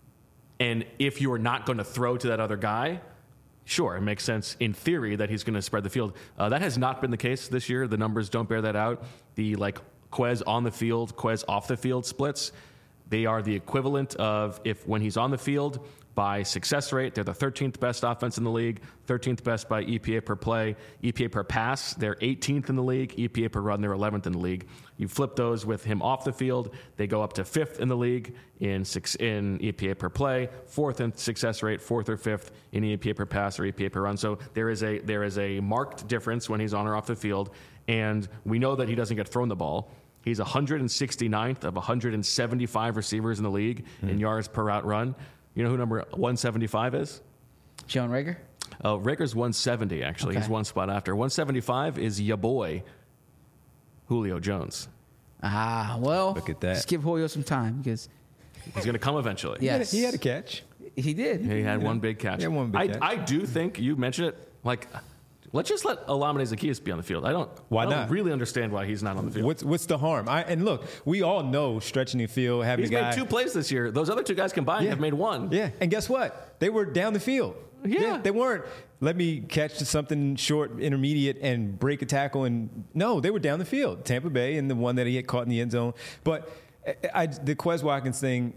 Speaker 1: And if you're not going to throw to that other guy, sure, it makes sense in theory that he's going to spread the field. That has not been the case this year. The numbers don't bear that out. The Quez on the field, Quez off the field splits, they are the equivalent of when he's on the field, by success rate, they're the 13th best offense in the league, 13th best by EPA per play, EPA per pass, they're 18th in the league, EPA per run, they're 11th in the league. You flip those with him off the field, they go up to 5th in the league in EPA per play, 4th in success rate, 4th or 5th in EPA per pass or EPA per run. So there is a marked difference when he's on or off the field, and we know that he doesn't get thrown the ball. He's 169th of 175 receivers in the league in yards per route run. You know who number 175 is?
Speaker 3: Jalen Reagor?
Speaker 1: Oh, Rager's 170, actually.
Speaker 3: Okay.
Speaker 1: He's one spot after. 175 is ya boy, Julio Jones.
Speaker 3: Well,
Speaker 2: Look at that.
Speaker 3: Just give Julio some time because
Speaker 1: He's going to come eventually.
Speaker 3: Yes.
Speaker 2: He had a catch.
Speaker 3: he did.
Speaker 1: He had one big catch.
Speaker 2: He had one big catch.
Speaker 1: I do think, you mentioned it, let's just let Olamide Zaccheaus be on the field. I don't really understand why he's not on the field.
Speaker 2: What's the harm? And look, we all know stretching the field, having
Speaker 1: He's
Speaker 2: a guy.
Speaker 1: made 2 plays this year. Those other 2 guys combined have made 1.
Speaker 2: Yeah, and guess what? They were down the field.
Speaker 1: Yeah.
Speaker 2: They weren't, let me catch something short, intermediate, and break a tackle. And no, they were down the field. Tampa Bay and the one that he had caught in the end zone. But the Quez Watkins thing,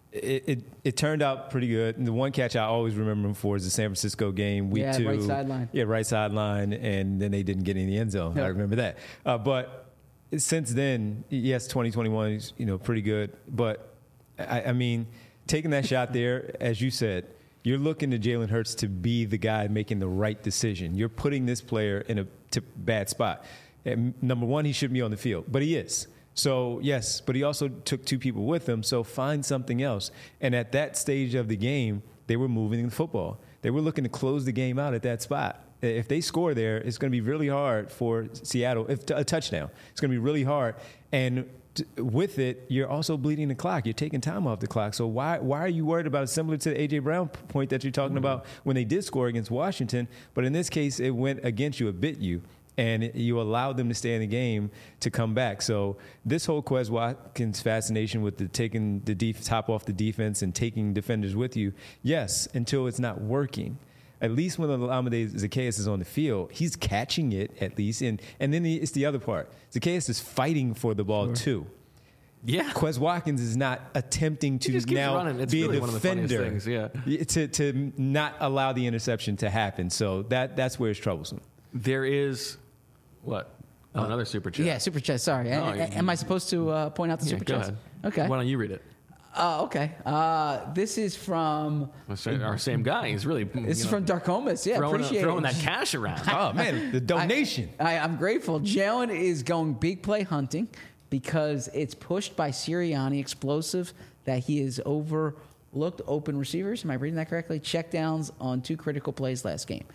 Speaker 2: it turned out pretty good. And the one catch I always remember him for is the San Francisco game, week 2.
Speaker 3: Right sideline.
Speaker 2: Yeah, right sideline. And then they didn't get in the end zone.
Speaker 3: Yep.
Speaker 2: I remember that. But since then, yes, 2021 is, pretty good. But, I mean, taking that shot there, as you said, you're looking to Jalen Hurts to be the guy making the right decision. You're putting this player in a bad spot. And number one, he shouldn't be on the field, but he is. So, yes, but he also took 2 people with him, so find something else. And at that stage of the game, they were moving the football. They were looking to close the game out at that spot. If they score there, it's going to be really hard for Seattle. If a touchdown, it's going to be really hard. And with it, you're also bleeding the clock. You're taking time off the clock. So why are you worried about it? Similar to the A.J. Brown point that you're talking about when they did score against Washington. But in this case, it went against you. It bit you. And you allowed them to stay in the game to come back. So this whole Quez Watkins fascination with taking the top off the defense and taking defenders with you, yes, until it's not working. At least when Olamide Zaccheaus is on the field, he's catching it at least. And then it's the other part. Zaccheaus is fighting for the ball too.
Speaker 1: Yeah.
Speaker 2: Quez Watkins is not attempting to now be
Speaker 1: really
Speaker 2: a defender
Speaker 1: one of the funniest things,
Speaker 2: to not allow the interception to happen. So that's where it's troublesome.
Speaker 1: There is, what? Oh, another super chat.
Speaker 3: Yeah, super chat. Sorry. Am I supposed to point out the super
Speaker 1: Go
Speaker 3: chats?
Speaker 1: ahead.
Speaker 3: Okay.
Speaker 1: Why don't you read it?
Speaker 3: Okay. This is from
Speaker 1: Our same guy. He's really.
Speaker 3: This is from Darkomas. Yeah, appreciate
Speaker 1: throwing
Speaker 3: it.
Speaker 1: that cash around.
Speaker 2: Oh, man, the donation.
Speaker 3: I'm grateful. Jalen is going big play hunting because it's pushed by Sirianni, explosive, that he has overlooked open receivers. Am I reading that correctly? Checkdowns on 2 critical plays last game.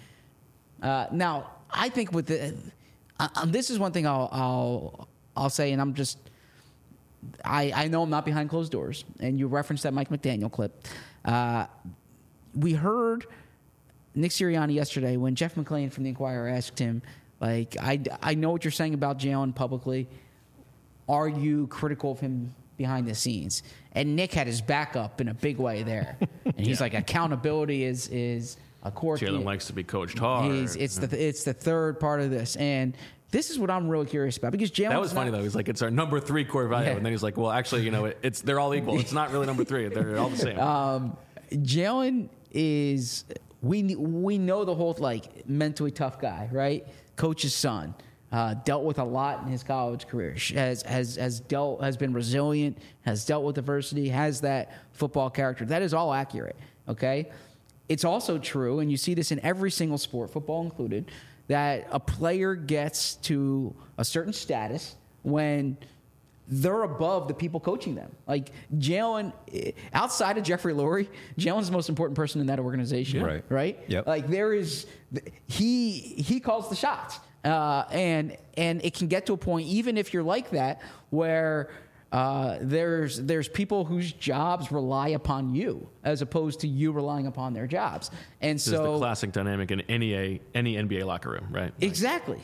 Speaker 3: Now, I think with this is one thing I'll say, and I'm just. I know I'm not behind closed doors, and you referenced that Mike McDaniel clip. We heard Nick Sirianni yesterday when Jeff McClain from the Inquirer asked him, I know what you're saying about Jalen publicly. Are you critical of him behind the scenes? And Nick had his back up in a big way there. And he's like, accountability is a core key.
Speaker 1: Jalen likes to be coached hard.
Speaker 3: It's the third part of this. And this is what I'm really curious about because Jalen.
Speaker 1: That was funny though. He's like, it's our number 3 core value, and then he's like, well, actually, they're all equal. It's not really number 3. They're all the same.
Speaker 3: Jalen is we know the whole mentally tough guy, right? Coach's son, dealt with a lot in his college career. Has been resilient, has dealt with adversity, has that football character. That is all accurate. Okay, it's also true, and you see this in every single sport, football included, that a player gets to a certain status when they're above the people coaching them. Like Jalen, outside of Jeffrey Lurie, Jalen's the most important person in that organization. Right?
Speaker 2: Yep.
Speaker 3: Like he calls the shots. And it can get to a point, even if you're like that, where there's people whose jobs rely upon you as opposed to you relying upon their jobs. And
Speaker 1: this is the classic dynamic in any NBA locker room, right?
Speaker 3: Exactly.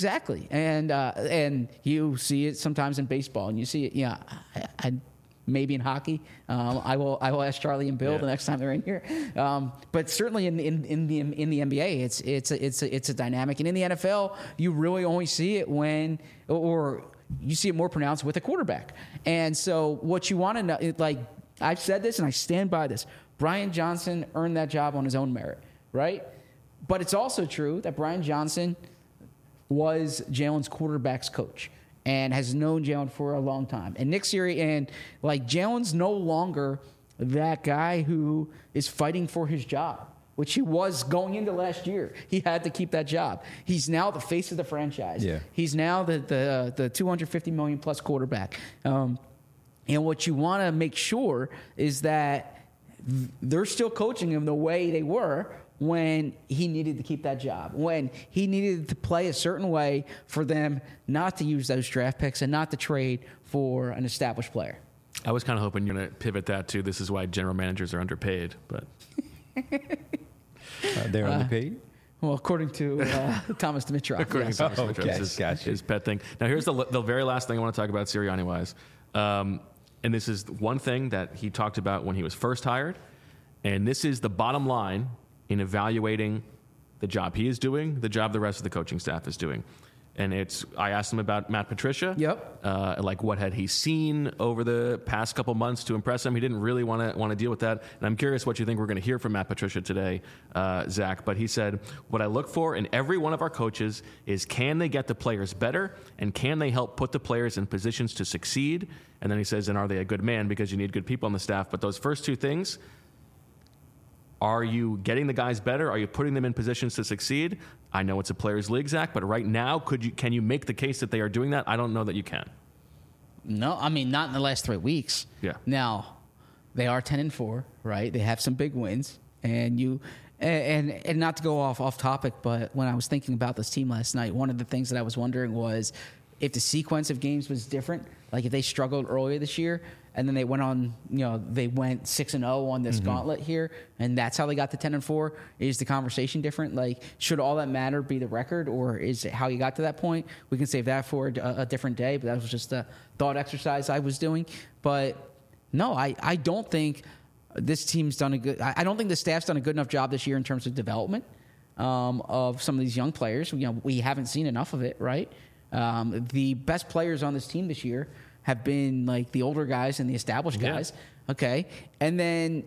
Speaker 3: And you see it sometimes in baseball, and you see it, I maybe in hockey. I will ask Charlie and Bill the next time they're in here. But certainly in the NBA, it's a dynamic, and in the NFL, you really only see it when you see it more pronounced with a quarterback. And so what you want to know, like I've said this and I stand by this, Brian Johnson earned that job on his own merit, right? But it's also true that Brian Johnson was Jalen's quarterback's coach and has known Jalen for a long time. And Nick Sirianni, Jalen's no longer that guy who is fighting for his job, which he was going into last year. He had to keep that job. He's now the face of the franchise.
Speaker 2: Yeah.
Speaker 3: He's now the $250 million plus quarterback. And what you want to make sure is that they're still coaching him the way they were when he needed to keep that job, when he needed to play a certain way for them not to use those draft picks and not to trade for an established player.
Speaker 1: I was kind of hoping you're going to pivot that to this is why general managers are underpaid, but
Speaker 2: they're underpaid.
Speaker 3: Well, according to Thomas Dimitroff.
Speaker 1: According to Thomas Dimitroff, his pet thing. Now, here's the very last thing I want to talk about Sirianni-wise. And this is one thing that he talked about when he was first hired. And this is the bottom line in evaluating the job he is doing, the job the rest of the coaching staff is doing. And I asked him about Matt Patricia.
Speaker 3: Yep.
Speaker 1: What had he seen over the past couple months to impress him? He didn't really want to deal with that. And I'm curious what you think we're going to hear from Matt Patricia today, Zach. But he said, what I look for in every one of our coaches is can they get the players better and can they help put the players in positions to succeed? And then he says, and are they a good man? Because you need good people on the staff. But those first two things, are you getting the guys better? Are you putting them in positions to succeed? I know it's a players' league, Zach, but right now, can you make the case that they are doing that? I don't know that you can.
Speaker 3: No, I mean, not in the last 3 weeks.
Speaker 1: Yeah.
Speaker 3: Now, they are 10-4, right? They have some big wins. And not to go off topic, but when I was thinking about this team last night, one of the things that I was wondering was if the sequence of games was different, like if they struggled earlier this year, and then they went on, they went 6-0 on this gauntlet here, and that's how they got to 10-4. Is the conversation different? Like, should all that matter be the record, or is it how you got to that point? We can save that for a different day, but that was just a thought exercise I was doing. But no, I don't think this team's done a good. I don't think the staff's done a good enough job this year in terms of development of some of these young players. We haven't seen enough of it, right? The best players on this team this year have been like the older guys and the established guys. Yeah. Okay. And then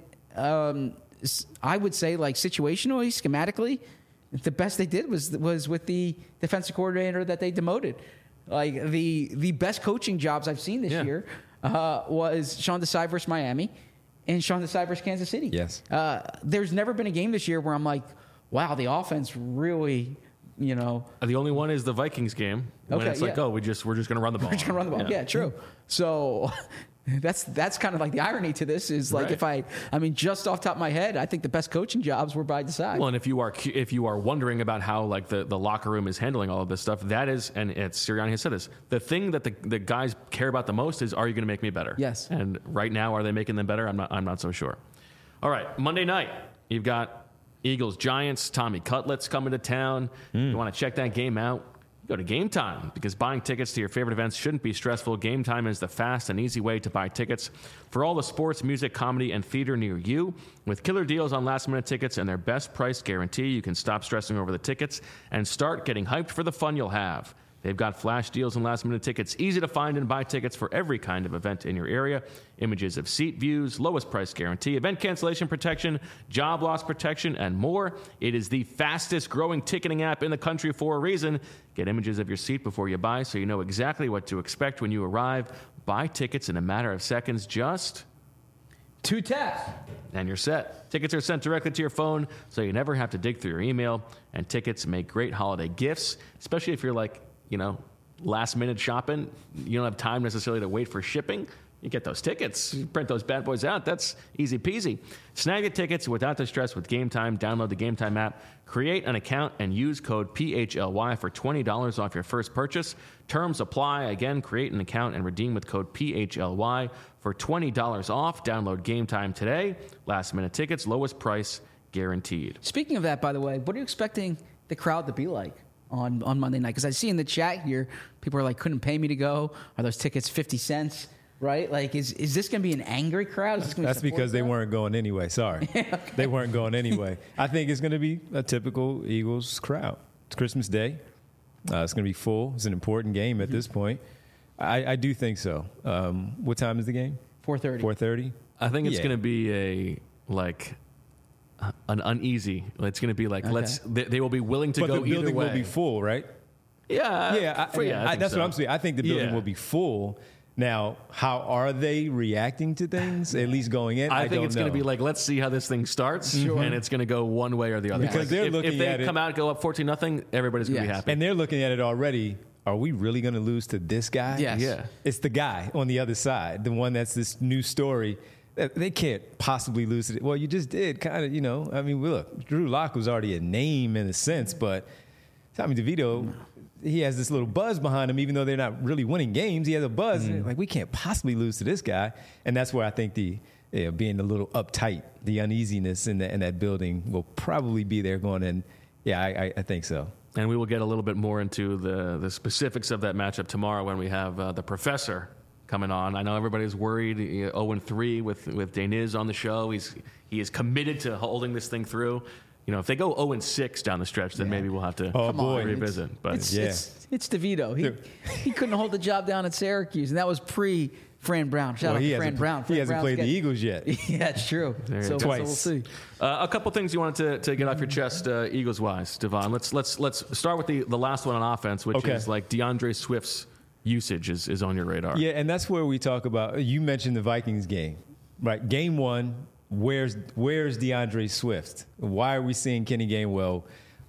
Speaker 3: I would say like situationally, schematically, the best they did was with the defensive coordinator that they demoted. Like the best coaching jobs I've seen this year was Sean Desai versus Miami and Sean Desai versus Kansas City.
Speaker 2: Yes.
Speaker 3: There's never been a game this year where I'm like, wow, the offense really,
Speaker 1: The only one is the Vikings game. When it's like, we're just going to run the ball.
Speaker 3: We're just going to run the ball. Yeah, true. So that's kind of like the irony to this is like right. I mean, just off the top of my head, I think the best coaching jobs were by Desai.
Speaker 1: Well, and if you are wondering about how like the locker room is handling all of this stuff, that is, and Sirianni has said this, the thing that the guys care about the most is, are you going to make me better?
Speaker 3: Yes.
Speaker 1: And right now, are they making them better? I'm not so sure. All right, Monday night, you've got Eagles, Giants, Tommy Cutlets coming to town. You want to check that game out? Go to Game Time, because buying tickets to your favorite events shouldn't be stressful. Game Time is the fast and easy way to buy tickets for all the sports, music, comedy, and theater near you. With killer deals on last-minute tickets and their best price guarantee, you can stop stressing over the tickets and start getting hyped for the fun you'll have. They've got flash deals and last-minute tickets, easy to find and buy tickets for every kind of event in your area. Images of seat views, lowest price guarantee, event cancellation protection, job loss protection, and more. It is the fastest-growing ticketing app in the country for a reason. Get images of your seat before you buy so you know exactly what to expect when you arrive. Buy tickets in a matter of seconds. Just
Speaker 3: 2 taps.
Speaker 1: And you're set. Tickets are sent directly to your phone, so you never have to dig through your email. And tickets make great holiday gifts, especially if you're like, last-minute shopping. You don't have time necessarily to wait for shipping. You get those tickets. You print those bad boys out. That's easy peasy. Snag the tickets without the stress with Game Time. Download the Game Time app, create an account, and use code PHLY for $20 off your first purchase. Terms apply. Again, create an account and redeem with code PHLY for $20 off. Download Game Time today. Last-minute tickets, lowest price guaranteed.
Speaker 3: Speaking of that, by the way, what are you expecting the crowd to be like on Monday night? Because I see in the chat here, people are like, couldn't pay me to go. Are those tickets 50 cents? Right? Like, is this going to be an angry crowd? Is this gonna be
Speaker 2: That's because they weren't going anyway. Sorry. Okay. They weren't going anyway. I think it's going to be a typical Eagles crowd. It's Christmas Day. It's going to be full. It's an important game at this point. I do think so. What time is the game?
Speaker 3: 4:30.
Speaker 2: 4:30?
Speaker 1: I think it's going to be an uneasy. It's going to be like, they will be willing to go either way.
Speaker 2: But the building will be full, right?
Speaker 1: Yeah.
Speaker 2: That's what I'm saying. I think the building will be full. Now, how are they reacting to things, at least going in?
Speaker 1: I think it's going to be like, let's see how this thing starts, and it's going to go one way or the other.
Speaker 2: Because they're looking at it.
Speaker 1: If they come out and go up 14-0, everybody's going to be happy.
Speaker 2: And they're looking at it already. Are we really going to lose to this guy?
Speaker 3: Yes.
Speaker 1: Yeah.
Speaker 2: It's the guy on the other side, the one that's this new story. They can't possibly lose it. Well, you just did, kind of, I mean, look, Drew Lock was already a name in a sense, but Tommy DeVito... He has this little buzz behind him, even though they're not really winning games. He has a buzz. Like, we can't possibly lose to this guy. And that's where I think being a little uptight, the uneasiness in that building will probably be there going in. Yeah, I think so.
Speaker 1: And we will get a little bit more into the specifics of that matchup tomorrow when we have the professor coming on. I know everybody's worried. 0-3 with Deniz on the show. He is committed to holding this thing through. If they go 0-6 down the stretch, then maybe we'll have to revisit. But
Speaker 3: it's DeVito. He couldn't hold the job down at Syracuse, and that was pre-Fran Brown. Shout out to Fran Brown.
Speaker 2: He hasn't played the Eagles yet.
Speaker 3: Yeah, it's true. So
Speaker 2: twice.
Speaker 3: We'll see.
Speaker 1: A couple things you wanted to get off your chest, Eagles-wise, Devon. Let's start with the last one on offense, which is like DeAndre Swift's usage is on your radar.
Speaker 2: Yeah, and that's where we talk about. You mentioned the Vikings game, right? Game 1. Where's DeAndre Swift? Why are we seeing Kenny Gainwell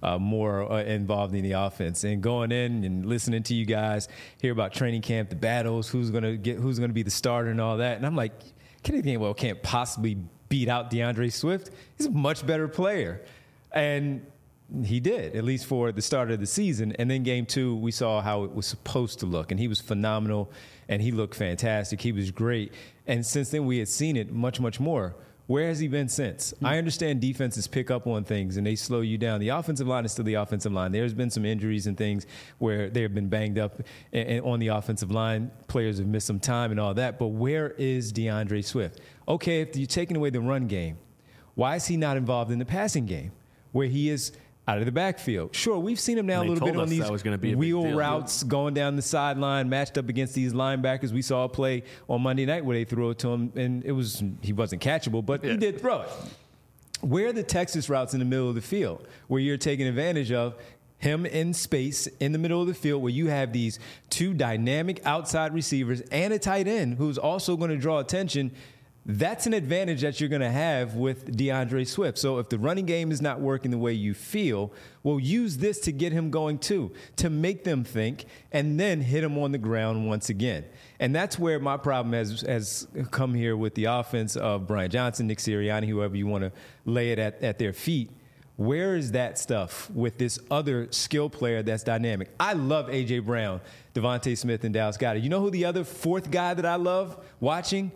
Speaker 2: more involved in the offense? And going in and listening to you guys hear about training camp, the battles, who's gonna be the starter and all that. And I'm like, Kenny Gainwell can't possibly beat out DeAndre Swift. He's a much better player, and he did, at least for the start of the season. And then game 2, we saw how it was supposed to look, and he was phenomenal, and he looked fantastic. He was great, and since then we had seen it much, much more. Where has he been since? I understand defenses pick up on things and they slow you down. The offensive line is still the offensive line. There's been some injuries and things where they have been banged up and on the offensive line. Players have missed some time and all that. But where is DeAndre Swift? Okay, if you're taking away the run game, why is he not involved in the passing game where he is out of the backfield? Sure, we've seen him now a little bit on these wheel routes going down the sideline, matched up against these linebackers. We saw a play on Monday night where they threw it to him, and he wasn't catchable, but he did throw it. Where are the Texas routes in the middle of the field where you're taking advantage of him in space in the middle of the field where you have these 2 dynamic outside receivers and a tight end who's also going to draw attention? That's an advantage that you're going to have with DeAndre Swift. So if the running game is not working the way you feel, well, use this to get him going too, to make them think, and then hit him on the ground once again. And that's where my problem has come here with the offense of Brian Johnson, Nick Sirianni, whoever you want to lay it at their feet. Where is that stuff with this other skill player that's dynamic? I love A.J. Brown, Devontae Smith, and Dallas Goedert. You know who the other 4th guy that I love watching?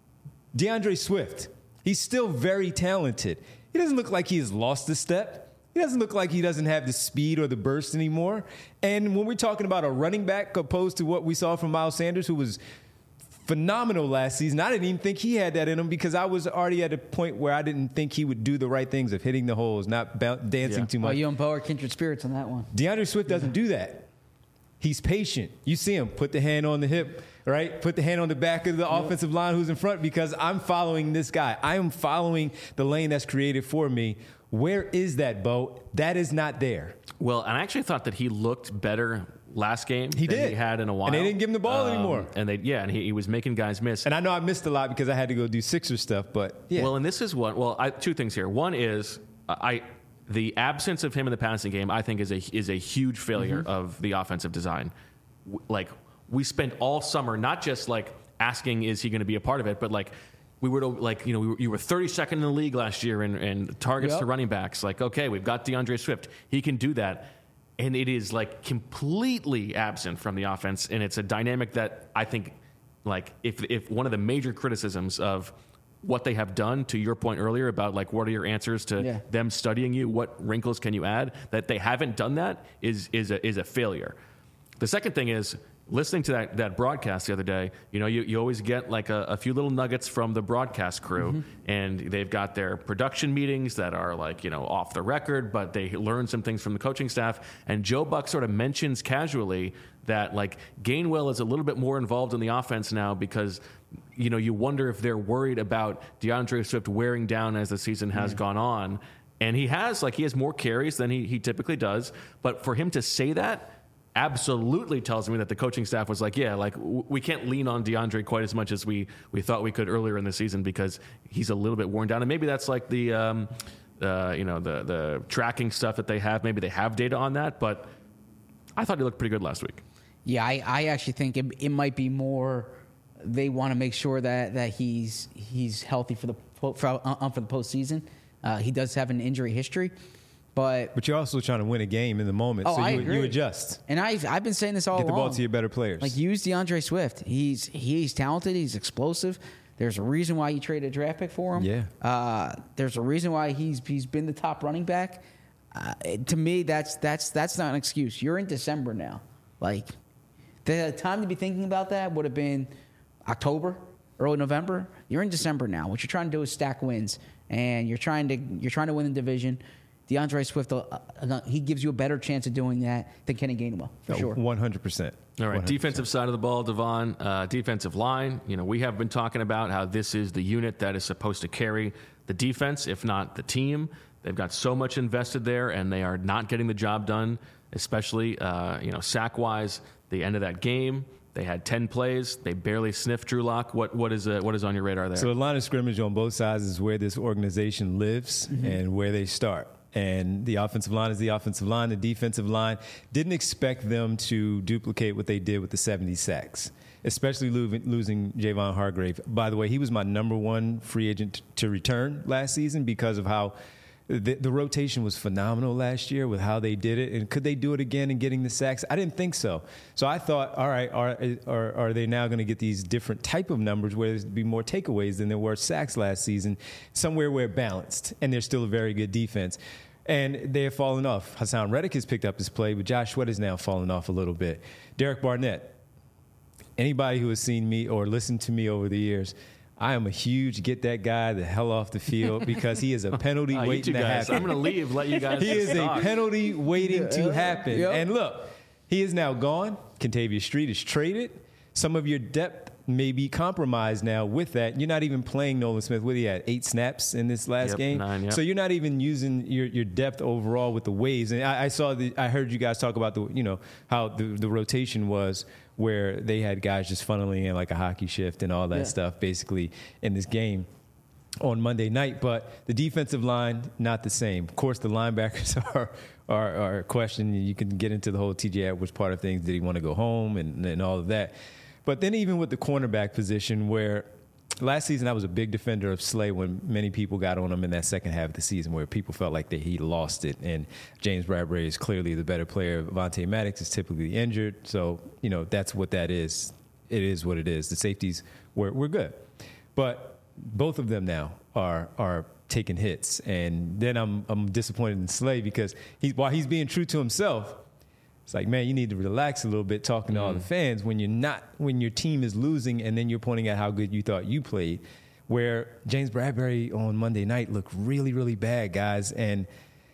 Speaker 2: DeAndre Swift. He's still very talented. He doesn't look like he has lost a step. He doesn't look like he doesn't have the speed or the burst anymore. And when we're talking about a running back opposed to what we saw from Miles Sanders, who was phenomenal last season, I didn't even think he had that in him because I was already at a point where I didn't think he would do the right things of hitting the holes, not dancing too much.
Speaker 3: Well, you and Bo are kindred spirits on that one.
Speaker 2: DeAndre Swift doesn't do that. He's patient. You see him put the hand on the hip, right? Put the hand on the back of the offensive line who's in front because I'm following this guy. I am following the lane that's created for me. Where is that, Bo? That is not there.
Speaker 1: Well, and I actually thought that he looked better last game
Speaker 2: He
Speaker 1: than
Speaker 2: did.
Speaker 1: he had in a while.
Speaker 2: And they didn't give him the ball anymore.
Speaker 1: And he was making guys miss.
Speaker 2: And I know I missed a lot because I had to go do Sixers stuff, but yeah.
Speaker 1: Well, and this is one. Well, two things here. One is the absence of him in the passing game, I think, is a huge failure of the offensive design. Like, we spent all summer not just like asking, is he going to be a part of it, but like we were like, you were 32nd in the league last year in targets to running backs. Like, okay, we've got DeAndre Swift, he can do that, and it is like completely absent from the offense, and it's a dynamic that I think, like, if one of the major criticisms of what they have done, to your point earlier about like what are your answers to them studying you, what wrinkles can you add, that they haven't done that is a failure. The second thing is, listening to that broadcast the other day, you always get like a few little nuggets from the broadcast crew, and they've got their production meetings that are like, off the record, but they learn some things from the coaching staff. And Joe Buck sort of mentions casually that like Gainwell is a little bit more involved in the offense now because, you wonder if they're worried about DeAndre Swift wearing down as the season has gone on. And he has more carries than he typically does. But for him to say that absolutely tells me that the coaching staff was like, we can't lean on DeAndre quite as much as we thought we could earlier in the season because he's a little bit worn down. And maybe that's like the tracking stuff that they have. Maybe they have data on that, but I thought he looked pretty good last week.
Speaker 3: Yeah, I actually think it might be more they want to make sure that he's healthy for the postseason. He does have an injury history. But
Speaker 2: you're also trying to win a game in the moment, so you adjust.
Speaker 3: And I've been saying this all along.
Speaker 2: Get the ball to your better players.
Speaker 3: Like, use DeAndre Swift. He's talented. He's explosive. There's a reason why you traded a draft pick for him.
Speaker 2: Yeah.
Speaker 3: There's a reason why he's been the top running back. To me, that's not an excuse. You're in December now. Like, the time to be thinking about that would have been October, early November. You're in December now. What you're trying to do is stack wins, and you're trying to win the division. DeAndre Swift, he gives you a better chance of doing that than Kenny Gainwell, for sure.
Speaker 2: 100%.
Speaker 1: All right,
Speaker 2: 100%.
Speaker 1: Defensive side of the ball, Devon, defensive line. We have been talking about how this is the unit that is supposed to carry the defense, if not the team. They've got so much invested there, and they are not getting the job done, especially sack-wise. The end of that game, they had 10 plays. They barely sniffed Drew Lock. What is on your radar there?
Speaker 2: So the line of scrimmage on both sides is where this organization lives and where they start. And the offensive line is the offensive line. The defensive line didn't expect them to duplicate what they did with the 70 sacks, especially losing Javon Hargrave. By the way, he was my number one free agent to return last season because of how the rotation was phenomenal last year with how they did it. And could they do it again in getting the sacks? I didn't think so. So I thought, all right, are they now going to get these different type of numbers where there's be more takeaways than there were sacks last season, somewhere where balanced, and they're still a very good defense. And they have fallen off. Hassan Reddick has picked up his play, but Josh Sweat has now fallen off a little bit. Derek Barnett, anybody who has seen me or listened to me over the years, I am a huge get that guy the hell off the field because he is a penalty waiting to happen.
Speaker 1: I'm going to leave, let you guys
Speaker 2: He is a penalty waiting to happen.
Speaker 3: Yep.
Speaker 2: And look, he is now gone. Kentavious Street is traded. Some of your depth may be compromised now with that. You're not even playing Nolan Smith. What he had 8 snaps in this last game.
Speaker 1: 9,
Speaker 2: So you're not even using your depth overall with the waves. And I heard you guys talk about how the rotation was, where they had guys just funneling in like a hockey shift and all that stuff basically in this game on Monday night. But the defensive line, not the same. Of course, the linebackers are a question. You can get into the whole TJ Edwards part of things. Did he want to go home and all of that? But then even with the cornerback position, where last season I was a big defender of Slay when many people got on him in that second half of the season where people felt like he lost it. And James Bradbury is clearly the better player. Vontae Maddox is typically injured. So, that's what that is. It is what it is. The safeties were good. But both of them now are taking hits. And then I'm disappointed in Slay because while he's being true to himself, it's like, man, you need to relax a little bit talking to all the fans when your team is losing and then you're pointing out how good you thought you played. Where James Bradbury on Monday night looked really, really bad, guys, and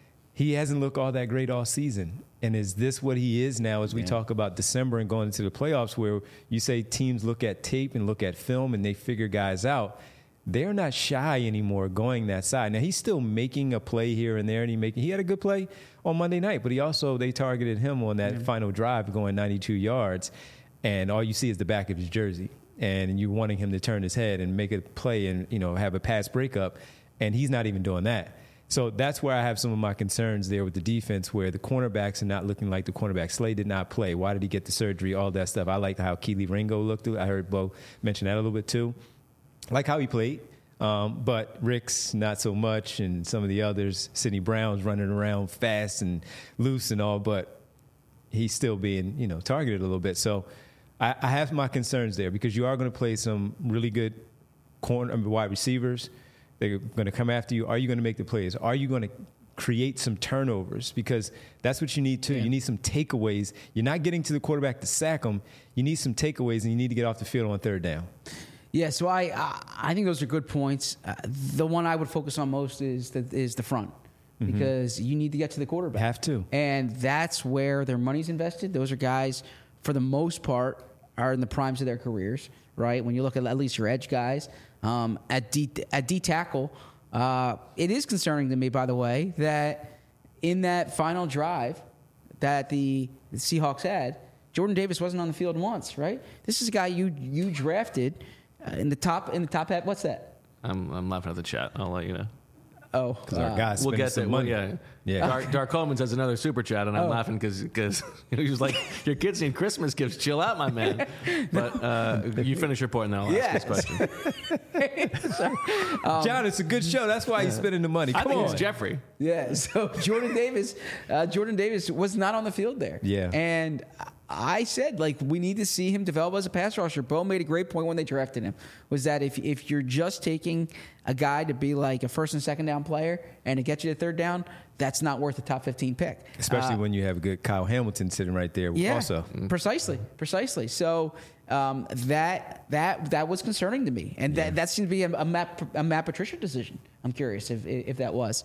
Speaker 2: he hasn't looked all that great all season. And is this what he is now as we talk about December and going into the playoffs, where you say teams look at tape and look at film and they figure guys out? they're not shy anymore going that side. Now, he's still making a play here and there, and he had a good play on Monday night, but they targeted him on that final drive going 92 yards, and all you see is the back of his jersey, and you wanting him to turn his head and make a play and, have a pass breakup, and he's not even doing that. So that's where I have some of my concerns there with the defense, where the cornerbacks are not looking like the cornerbacks. Slade did not play. Why did he get the surgery? All that stuff. I like how Keely Ringo looked. I heard Bo mention that a little bit too. I like how he played, but Ricks not so much, and some of the others. Sidney Brown's running around fast and loose and all, but he's still being targeted a little bit. So I have my concerns there, because you are going to play some really good wide receivers. They're going to come after you. Are you going to make the plays? Are you going to create some turnovers? Because that's what you need too. Yeah. You need some takeaways. You're not getting to the quarterback to sack them. You need some takeaways, and you need to get off the field on third down.
Speaker 3: Yeah, so I think those are good points. The one I would focus on most is the front, because you need to get to the quarterback.
Speaker 2: Have to.
Speaker 3: And that's where their money's invested. Those are guys, for the most part, are in the primes of their careers, right? When you look at least your edge guys. At D tackle, it is concerning to me, by the way, that in that final drive that the Seahawks had, Jordan Davis wasn't on the field once, right? This is a guy you drafted in the top half. What's that?
Speaker 1: I'm laughing at the chat. I'll let you know.
Speaker 3: Oh,
Speaker 2: because our guys
Speaker 1: we'll get
Speaker 2: some money.
Speaker 1: Yeah. Dark Coleman has another super chat, and I'm laughing because he was like, "Your kids need Christmas gifts. Chill out, my man." But you finish your point, and I'll ask this question.
Speaker 2: John, it's a good show. That's why he's spending the money. Come on,
Speaker 1: it's Jeffrey.
Speaker 3: Yeah. So Jordan Davis was not on the field there.
Speaker 2: Yeah,
Speaker 3: and I said, we need to see him develop as a pass rusher. Bo made a great point when they drafted him, was that if you're just taking a guy to be like a first and second down player and to get you to third down, that's not worth a top 15 pick.
Speaker 2: Especially when you have a good Kyle Hamilton sitting right there also.
Speaker 3: Precisely. So that was concerning to me. And that seemed to be a Matt Patricia decision. I'm curious if that was.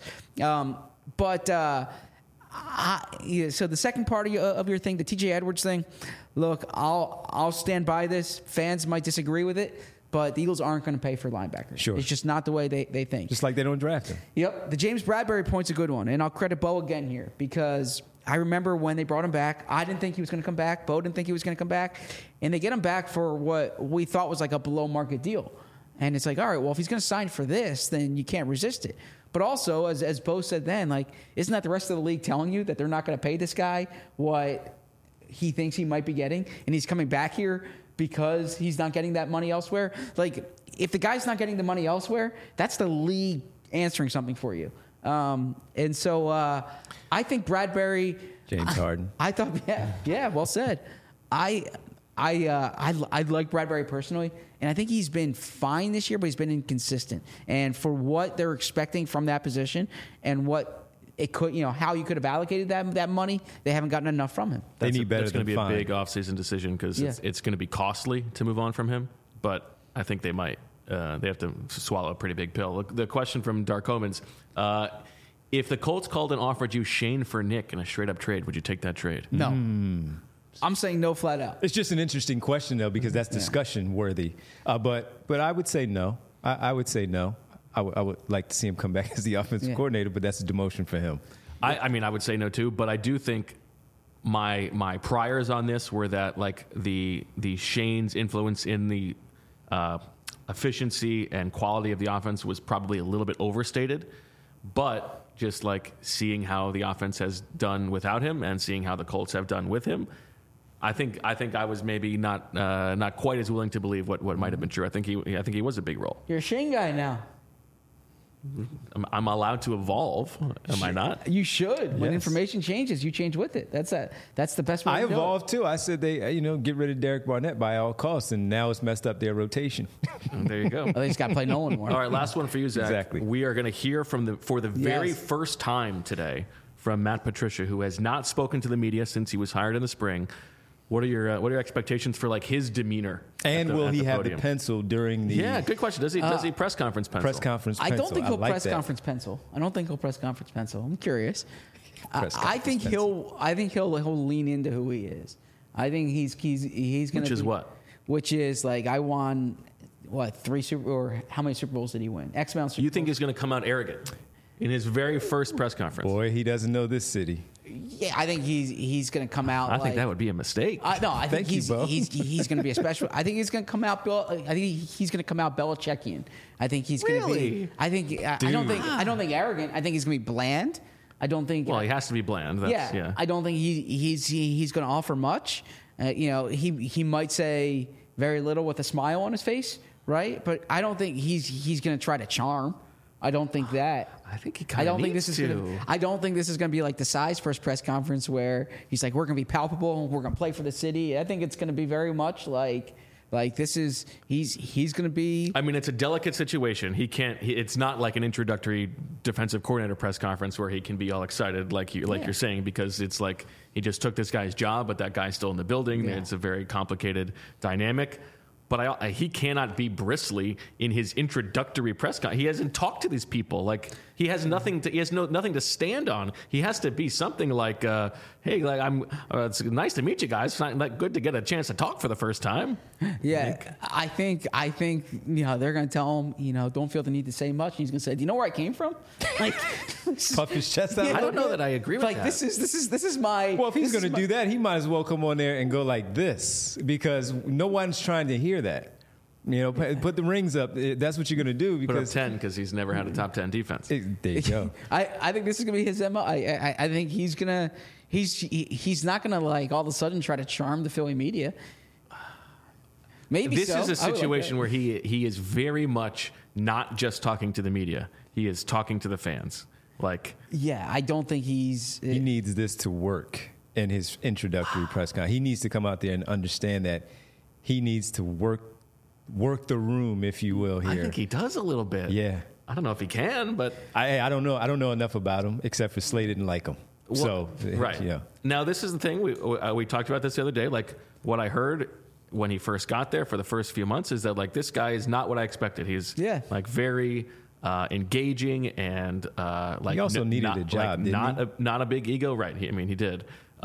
Speaker 3: So the second part of your thing, the TJ Edwards thing, look, I'll stand by this. Fans might disagree with it, but the Eagles aren't going to pay for linebackers.
Speaker 2: Sure.
Speaker 3: It's just not the way they think.
Speaker 2: Just like they don't draft him.
Speaker 3: Yep. The James Bradbury point's a good one, and I'll credit Bo again here, because I remember when they brought him back, I didn't think he was going to come back. Bo didn't think he was going to come back, and they get him back for what we thought was like a below-market deal. And it's like, all right, well, if he's going to sign for this, then you can't resist it. But also, as Bo said then, isn't that the rest of the league telling you that they're not going to pay this guy what he thinks he might be getting, and he's coming back here because he's not getting that money elsewhere? If the guy's not getting the money elsewhere, that's the league answering something for you. And so I think Bradbury...
Speaker 2: James Harden.
Speaker 3: I thought, yeah, well said. I like Bradbury personally, and I think he's been fine this year, but he's been inconsistent. And for what they're expecting from that position and what it could, how you could have allocated that money, they haven't gotten enough from him.
Speaker 2: They need better.
Speaker 1: That's going to be a big offseason decision, because it's going to be costly to move on from him. But I think they might. They have to swallow a pretty big pill. Look, the question from Dark Omens: if the Colts called and offered you Shane for Nick in a straight-up trade, would you take that trade?
Speaker 3: No. I'm saying no flat out.
Speaker 2: It's just an interesting question, though, because that's discussion worthy. But I would say no. I would say no. I would like to see him come back as the offensive coordinator, but that's a demotion for him.
Speaker 1: I mean, I would say no too, but I do think my priors on this were that the Shane's influence in the efficiency and quality of the offense was probably a little bit overstated, but just seeing how the offense has done without him and seeing how the Colts have done with him, I think I was maybe not quite as willing to believe what might have been true. I think he was a big role.
Speaker 3: You're a Shane guy now.
Speaker 1: I'm allowed to evolve, am I not?
Speaker 3: You should. When information changes, you change with it. That's the best way to do it.
Speaker 2: I evolved too. I said they get rid of Derek Barnett by all costs, and now it's messed up their rotation.
Speaker 1: There you go.
Speaker 3: They just got to play Nolan more.
Speaker 1: All right, last one for you, Zach.
Speaker 2: Exactly.
Speaker 1: We are going to hear for the very first time today from Matt Patricia, who has not spoken to the media since he was hired in the spring. What are your expectations for his demeanor?
Speaker 2: And will he have the pencil during the?
Speaker 1: Yeah, good question. Does he press conference pencil?
Speaker 2: Press conference pencil.
Speaker 3: I don't think he'll press conference pencil. I'm curious. I think he'll lean into who he is. I think he's going to.
Speaker 1: Which is what?
Speaker 3: Which is I won how many Super Bowls did he win? X amount of Super
Speaker 1: You think
Speaker 3: Bowls.
Speaker 1: he's going to come out arrogant in his very first press conference?
Speaker 2: Boy, he doesn't know this city.
Speaker 3: Yeah, I think he's going to come out.
Speaker 1: I think that would be a mistake.
Speaker 3: No, I think
Speaker 2: Thank you, Bo.
Speaker 3: he's going to be a special. I think he's going to come out. I think he's going to come out Belichickian. I think he's going to
Speaker 1: Really?
Speaker 3: be. I don't think arrogant. I think he's going to be bland. I don't think.
Speaker 1: Well, he has to be bland. That's, yeah.
Speaker 3: I don't think he's going to offer much. He might say very little with a smile on his face, right? But I don't think he's going to try to charm. I don't think that.
Speaker 1: I think he kind of needs to.
Speaker 3: I don't think this is going to be like the size first press conference where he's like, we're going to be palpable, we're going to play for the city. I think it's going to be very much like this is he's going to be.
Speaker 1: I mean, it's a delicate situation. He can't. It's not like an introductory defensive coordinator press conference where he can be all excited you're saying, because it's like he just took this guy's job, but that guy's still in the building.
Speaker 3: Yeah.
Speaker 1: It's a very complicated dynamic. But he cannot be bristly in his introductory press conference. He hasn't talked to these people. Like he has nothing to. He has nothing to stand on. He has to be something like, "Hey, it's nice to meet you guys. It's not good to get a chance to talk for the first time."
Speaker 3: Yeah, I think they're going to tell him, don't feel the need to say much. And he's going to say, "Do you know where I came from?" Like
Speaker 2: Puff his chest out.
Speaker 1: I don't know that I agree with that.
Speaker 3: This is my.
Speaker 2: Well, if he's going to do that, he might as well come on there and go like this, because no one's trying to hear that. Put the rings up. That's what you're going to do.
Speaker 1: Put up
Speaker 2: Because
Speaker 1: 10 because he's never had a top 10 defense.
Speaker 2: there you go.
Speaker 3: I think this is going to be his MO. I think he's not going to like all of a sudden try to charm the Philly media. Maybe
Speaker 1: This
Speaker 3: so.
Speaker 1: is a
Speaker 3: I would like
Speaker 1: situation
Speaker 3: that.
Speaker 1: where he is very much not just talking to the media. He is talking to the fans.
Speaker 3: Yeah, I don't think he's.
Speaker 2: He needs this to work in his introductory press conference. He needs to come out there and understand that he needs to work the room, if you will, here.
Speaker 1: I think he does a little bit.
Speaker 2: Yeah.
Speaker 1: I don't know if he can, but
Speaker 2: I don't know. I don't know enough about him, except for Slay didn't like him.
Speaker 1: right.
Speaker 2: Yeah.
Speaker 1: Now this is the thing we talked about this the other day. Like what I heard when he first got there for the first few months is that this guy is not what I expected. He's very engaging and
Speaker 2: he also needed a job.
Speaker 1: Not a big ego, right? He did.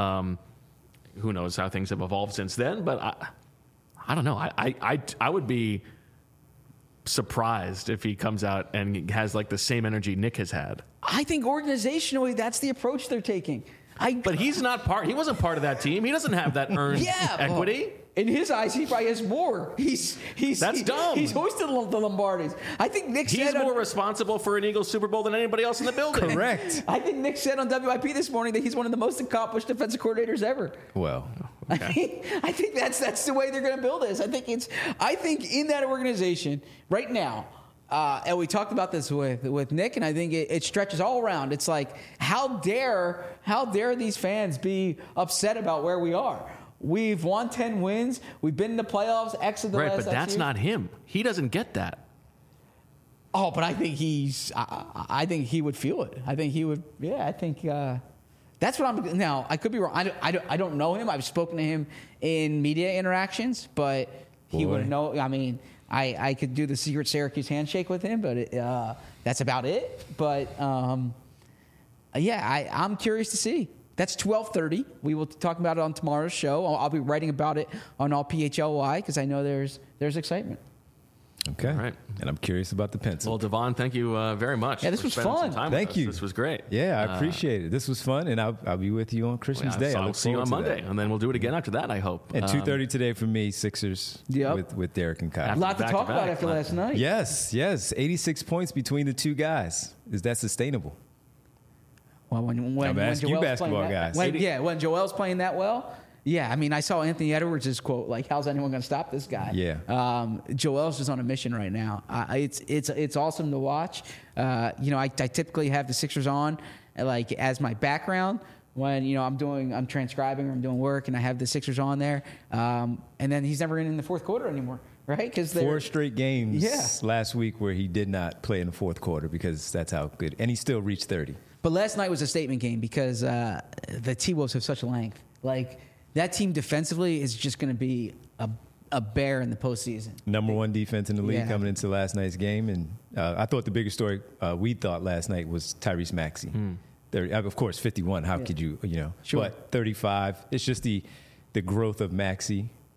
Speaker 1: Who knows how things have evolved since then? But I don't know. I would be surprised if he comes out and has the same energy Nick has had.
Speaker 3: I think organizationally, that's the approach they're taking.
Speaker 1: But he's not part. He wasn't part of that team. He doesn't have that earned equity.
Speaker 3: In his eyes, he probably has more.
Speaker 1: That's dumb.
Speaker 3: He's hosted the Lombardis. I think Nick
Speaker 1: He's
Speaker 3: said
Speaker 1: more responsible for an Eagles Super Bowl than anybody else in the building.
Speaker 2: Correct.
Speaker 3: I think Nick said on WIP this morning that he's one of the most accomplished defensive coordinators ever.
Speaker 2: Well,
Speaker 1: okay.
Speaker 3: I think that's the way they're going to build this. I think in that organization right now. And we talked about this with Nick, and I think it stretches all around. It's like, how dare these fans be upset about where we are? We've won 10 wins. We've been in the playoffs. X of the
Speaker 1: Right,
Speaker 3: last
Speaker 1: but that's
Speaker 3: years.
Speaker 1: not him. He doesn't get that.
Speaker 3: Oh, but I think I think he would feel it. I think he would. Yeah, I think that's what I'm. Now I could be wrong. I don't know him. I've spoken to him in media interactions, but he would know. I mean, I could do the secret Syracuse handshake with him, but that's about it. But I'm curious to see. That's 12:30. We will talk about it on tomorrow's show. I'll be writing about it on all PHLY because I know there's excitement.
Speaker 2: okay.
Speaker 1: All right.
Speaker 2: And I'm curious about the pencil.
Speaker 1: Well, Devon, thank you very much.
Speaker 3: Yeah, this
Speaker 1: for
Speaker 3: was
Speaker 1: spending
Speaker 3: fun.
Speaker 1: some time with
Speaker 2: Thank
Speaker 1: us.
Speaker 2: you.
Speaker 1: This was great.
Speaker 2: Yeah, I appreciate it. This was fun, and I'll be with you on Christmas Day.
Speaker 1: I'll see you on Monday, and then we'll do it again after that, I hope.
Speaker 2: And 2:30 today for me, Sixers with Derek and Kyle.
Speaker 3: A lot to talk
Speaker 1: Back-to-back.
Speaker 3: about after last night.
Speaker 2: Yes. 86 points between the two guys. Is that sustainable?
Speaker 3: Well, when
Speaker 2: I'm asking you
Speaker 3: Joel's
Speaker 2: basketball
Speaker 3: playing that,
Speaker 2: guys.
Speaker 3: when Joel's playing that well, yeah. I mean, I saw Anthony Edwards' quote, like, "How's anyone going to stop this guy?"
Speaker 2: Yeah.
Speaker 3: Joel's just on a mission right now. It's awesome to watch. I typically have the Sixers on, as my background when I'm transcribing or I'm doing work, and I have the Sixers on there. And then he's never in the fourth quarter anymore, right? Because
Speaker 2: 4 straight games last week where he did not play in the fourth quarter because that's how good, and he still reached 30.
Speaker 3: But last night was a statement game because the T-Wolves have such length. That team defensively is just going to be a bear in the postseason.
Speaker 2: Number 1 defense in the league coming into last night's game. And I thought the biggest story we thought last night was Tyrese Maxey. 30, of course, 51. How could you,
Speaker 3: Sure.
Speaker 2: But 35. It's just the growth of Maxey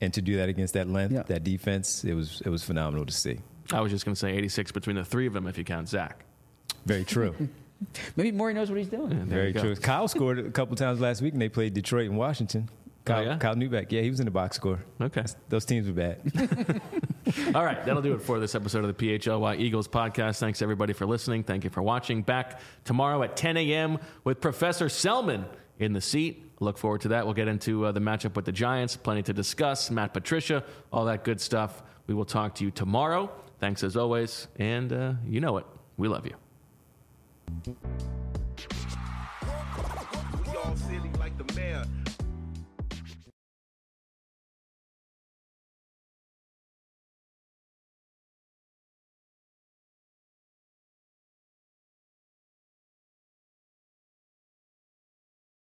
Speaker 2: And to do that against that length, that defense, it was phenomenal to see.
Speaker 1: I was just going to say 86 between the three of them if you count Zach.
Speaker 2: Very true.
Speaker 3: Maybe Maury knows what he's doing.
Speaker 1: Yeah,
Speaker 2: Very true. Kyle scored a couple times last week, and they played Detroit and Washington. Kyle Newbeck. Yeah, he was in the box score.
Speaker 1: Okay.
Speaker 2: Those teams were bad.
Speaker 1: All right, that'll do it for this episode of the PHLY Eagles podcast. Thanks, everybody, for listening. Thank you for watching. Back tomorrow at 10 a.m. with Professor Selman in the seat. Look forward to that. We'll get into the matchup with the Giants. Plenty to discuss. Matt Patricia, all that good stuff. We will talk to you tomorrow. Thanks as always. And you know it. We love you.
Speaker 4: We all silly like the mayor.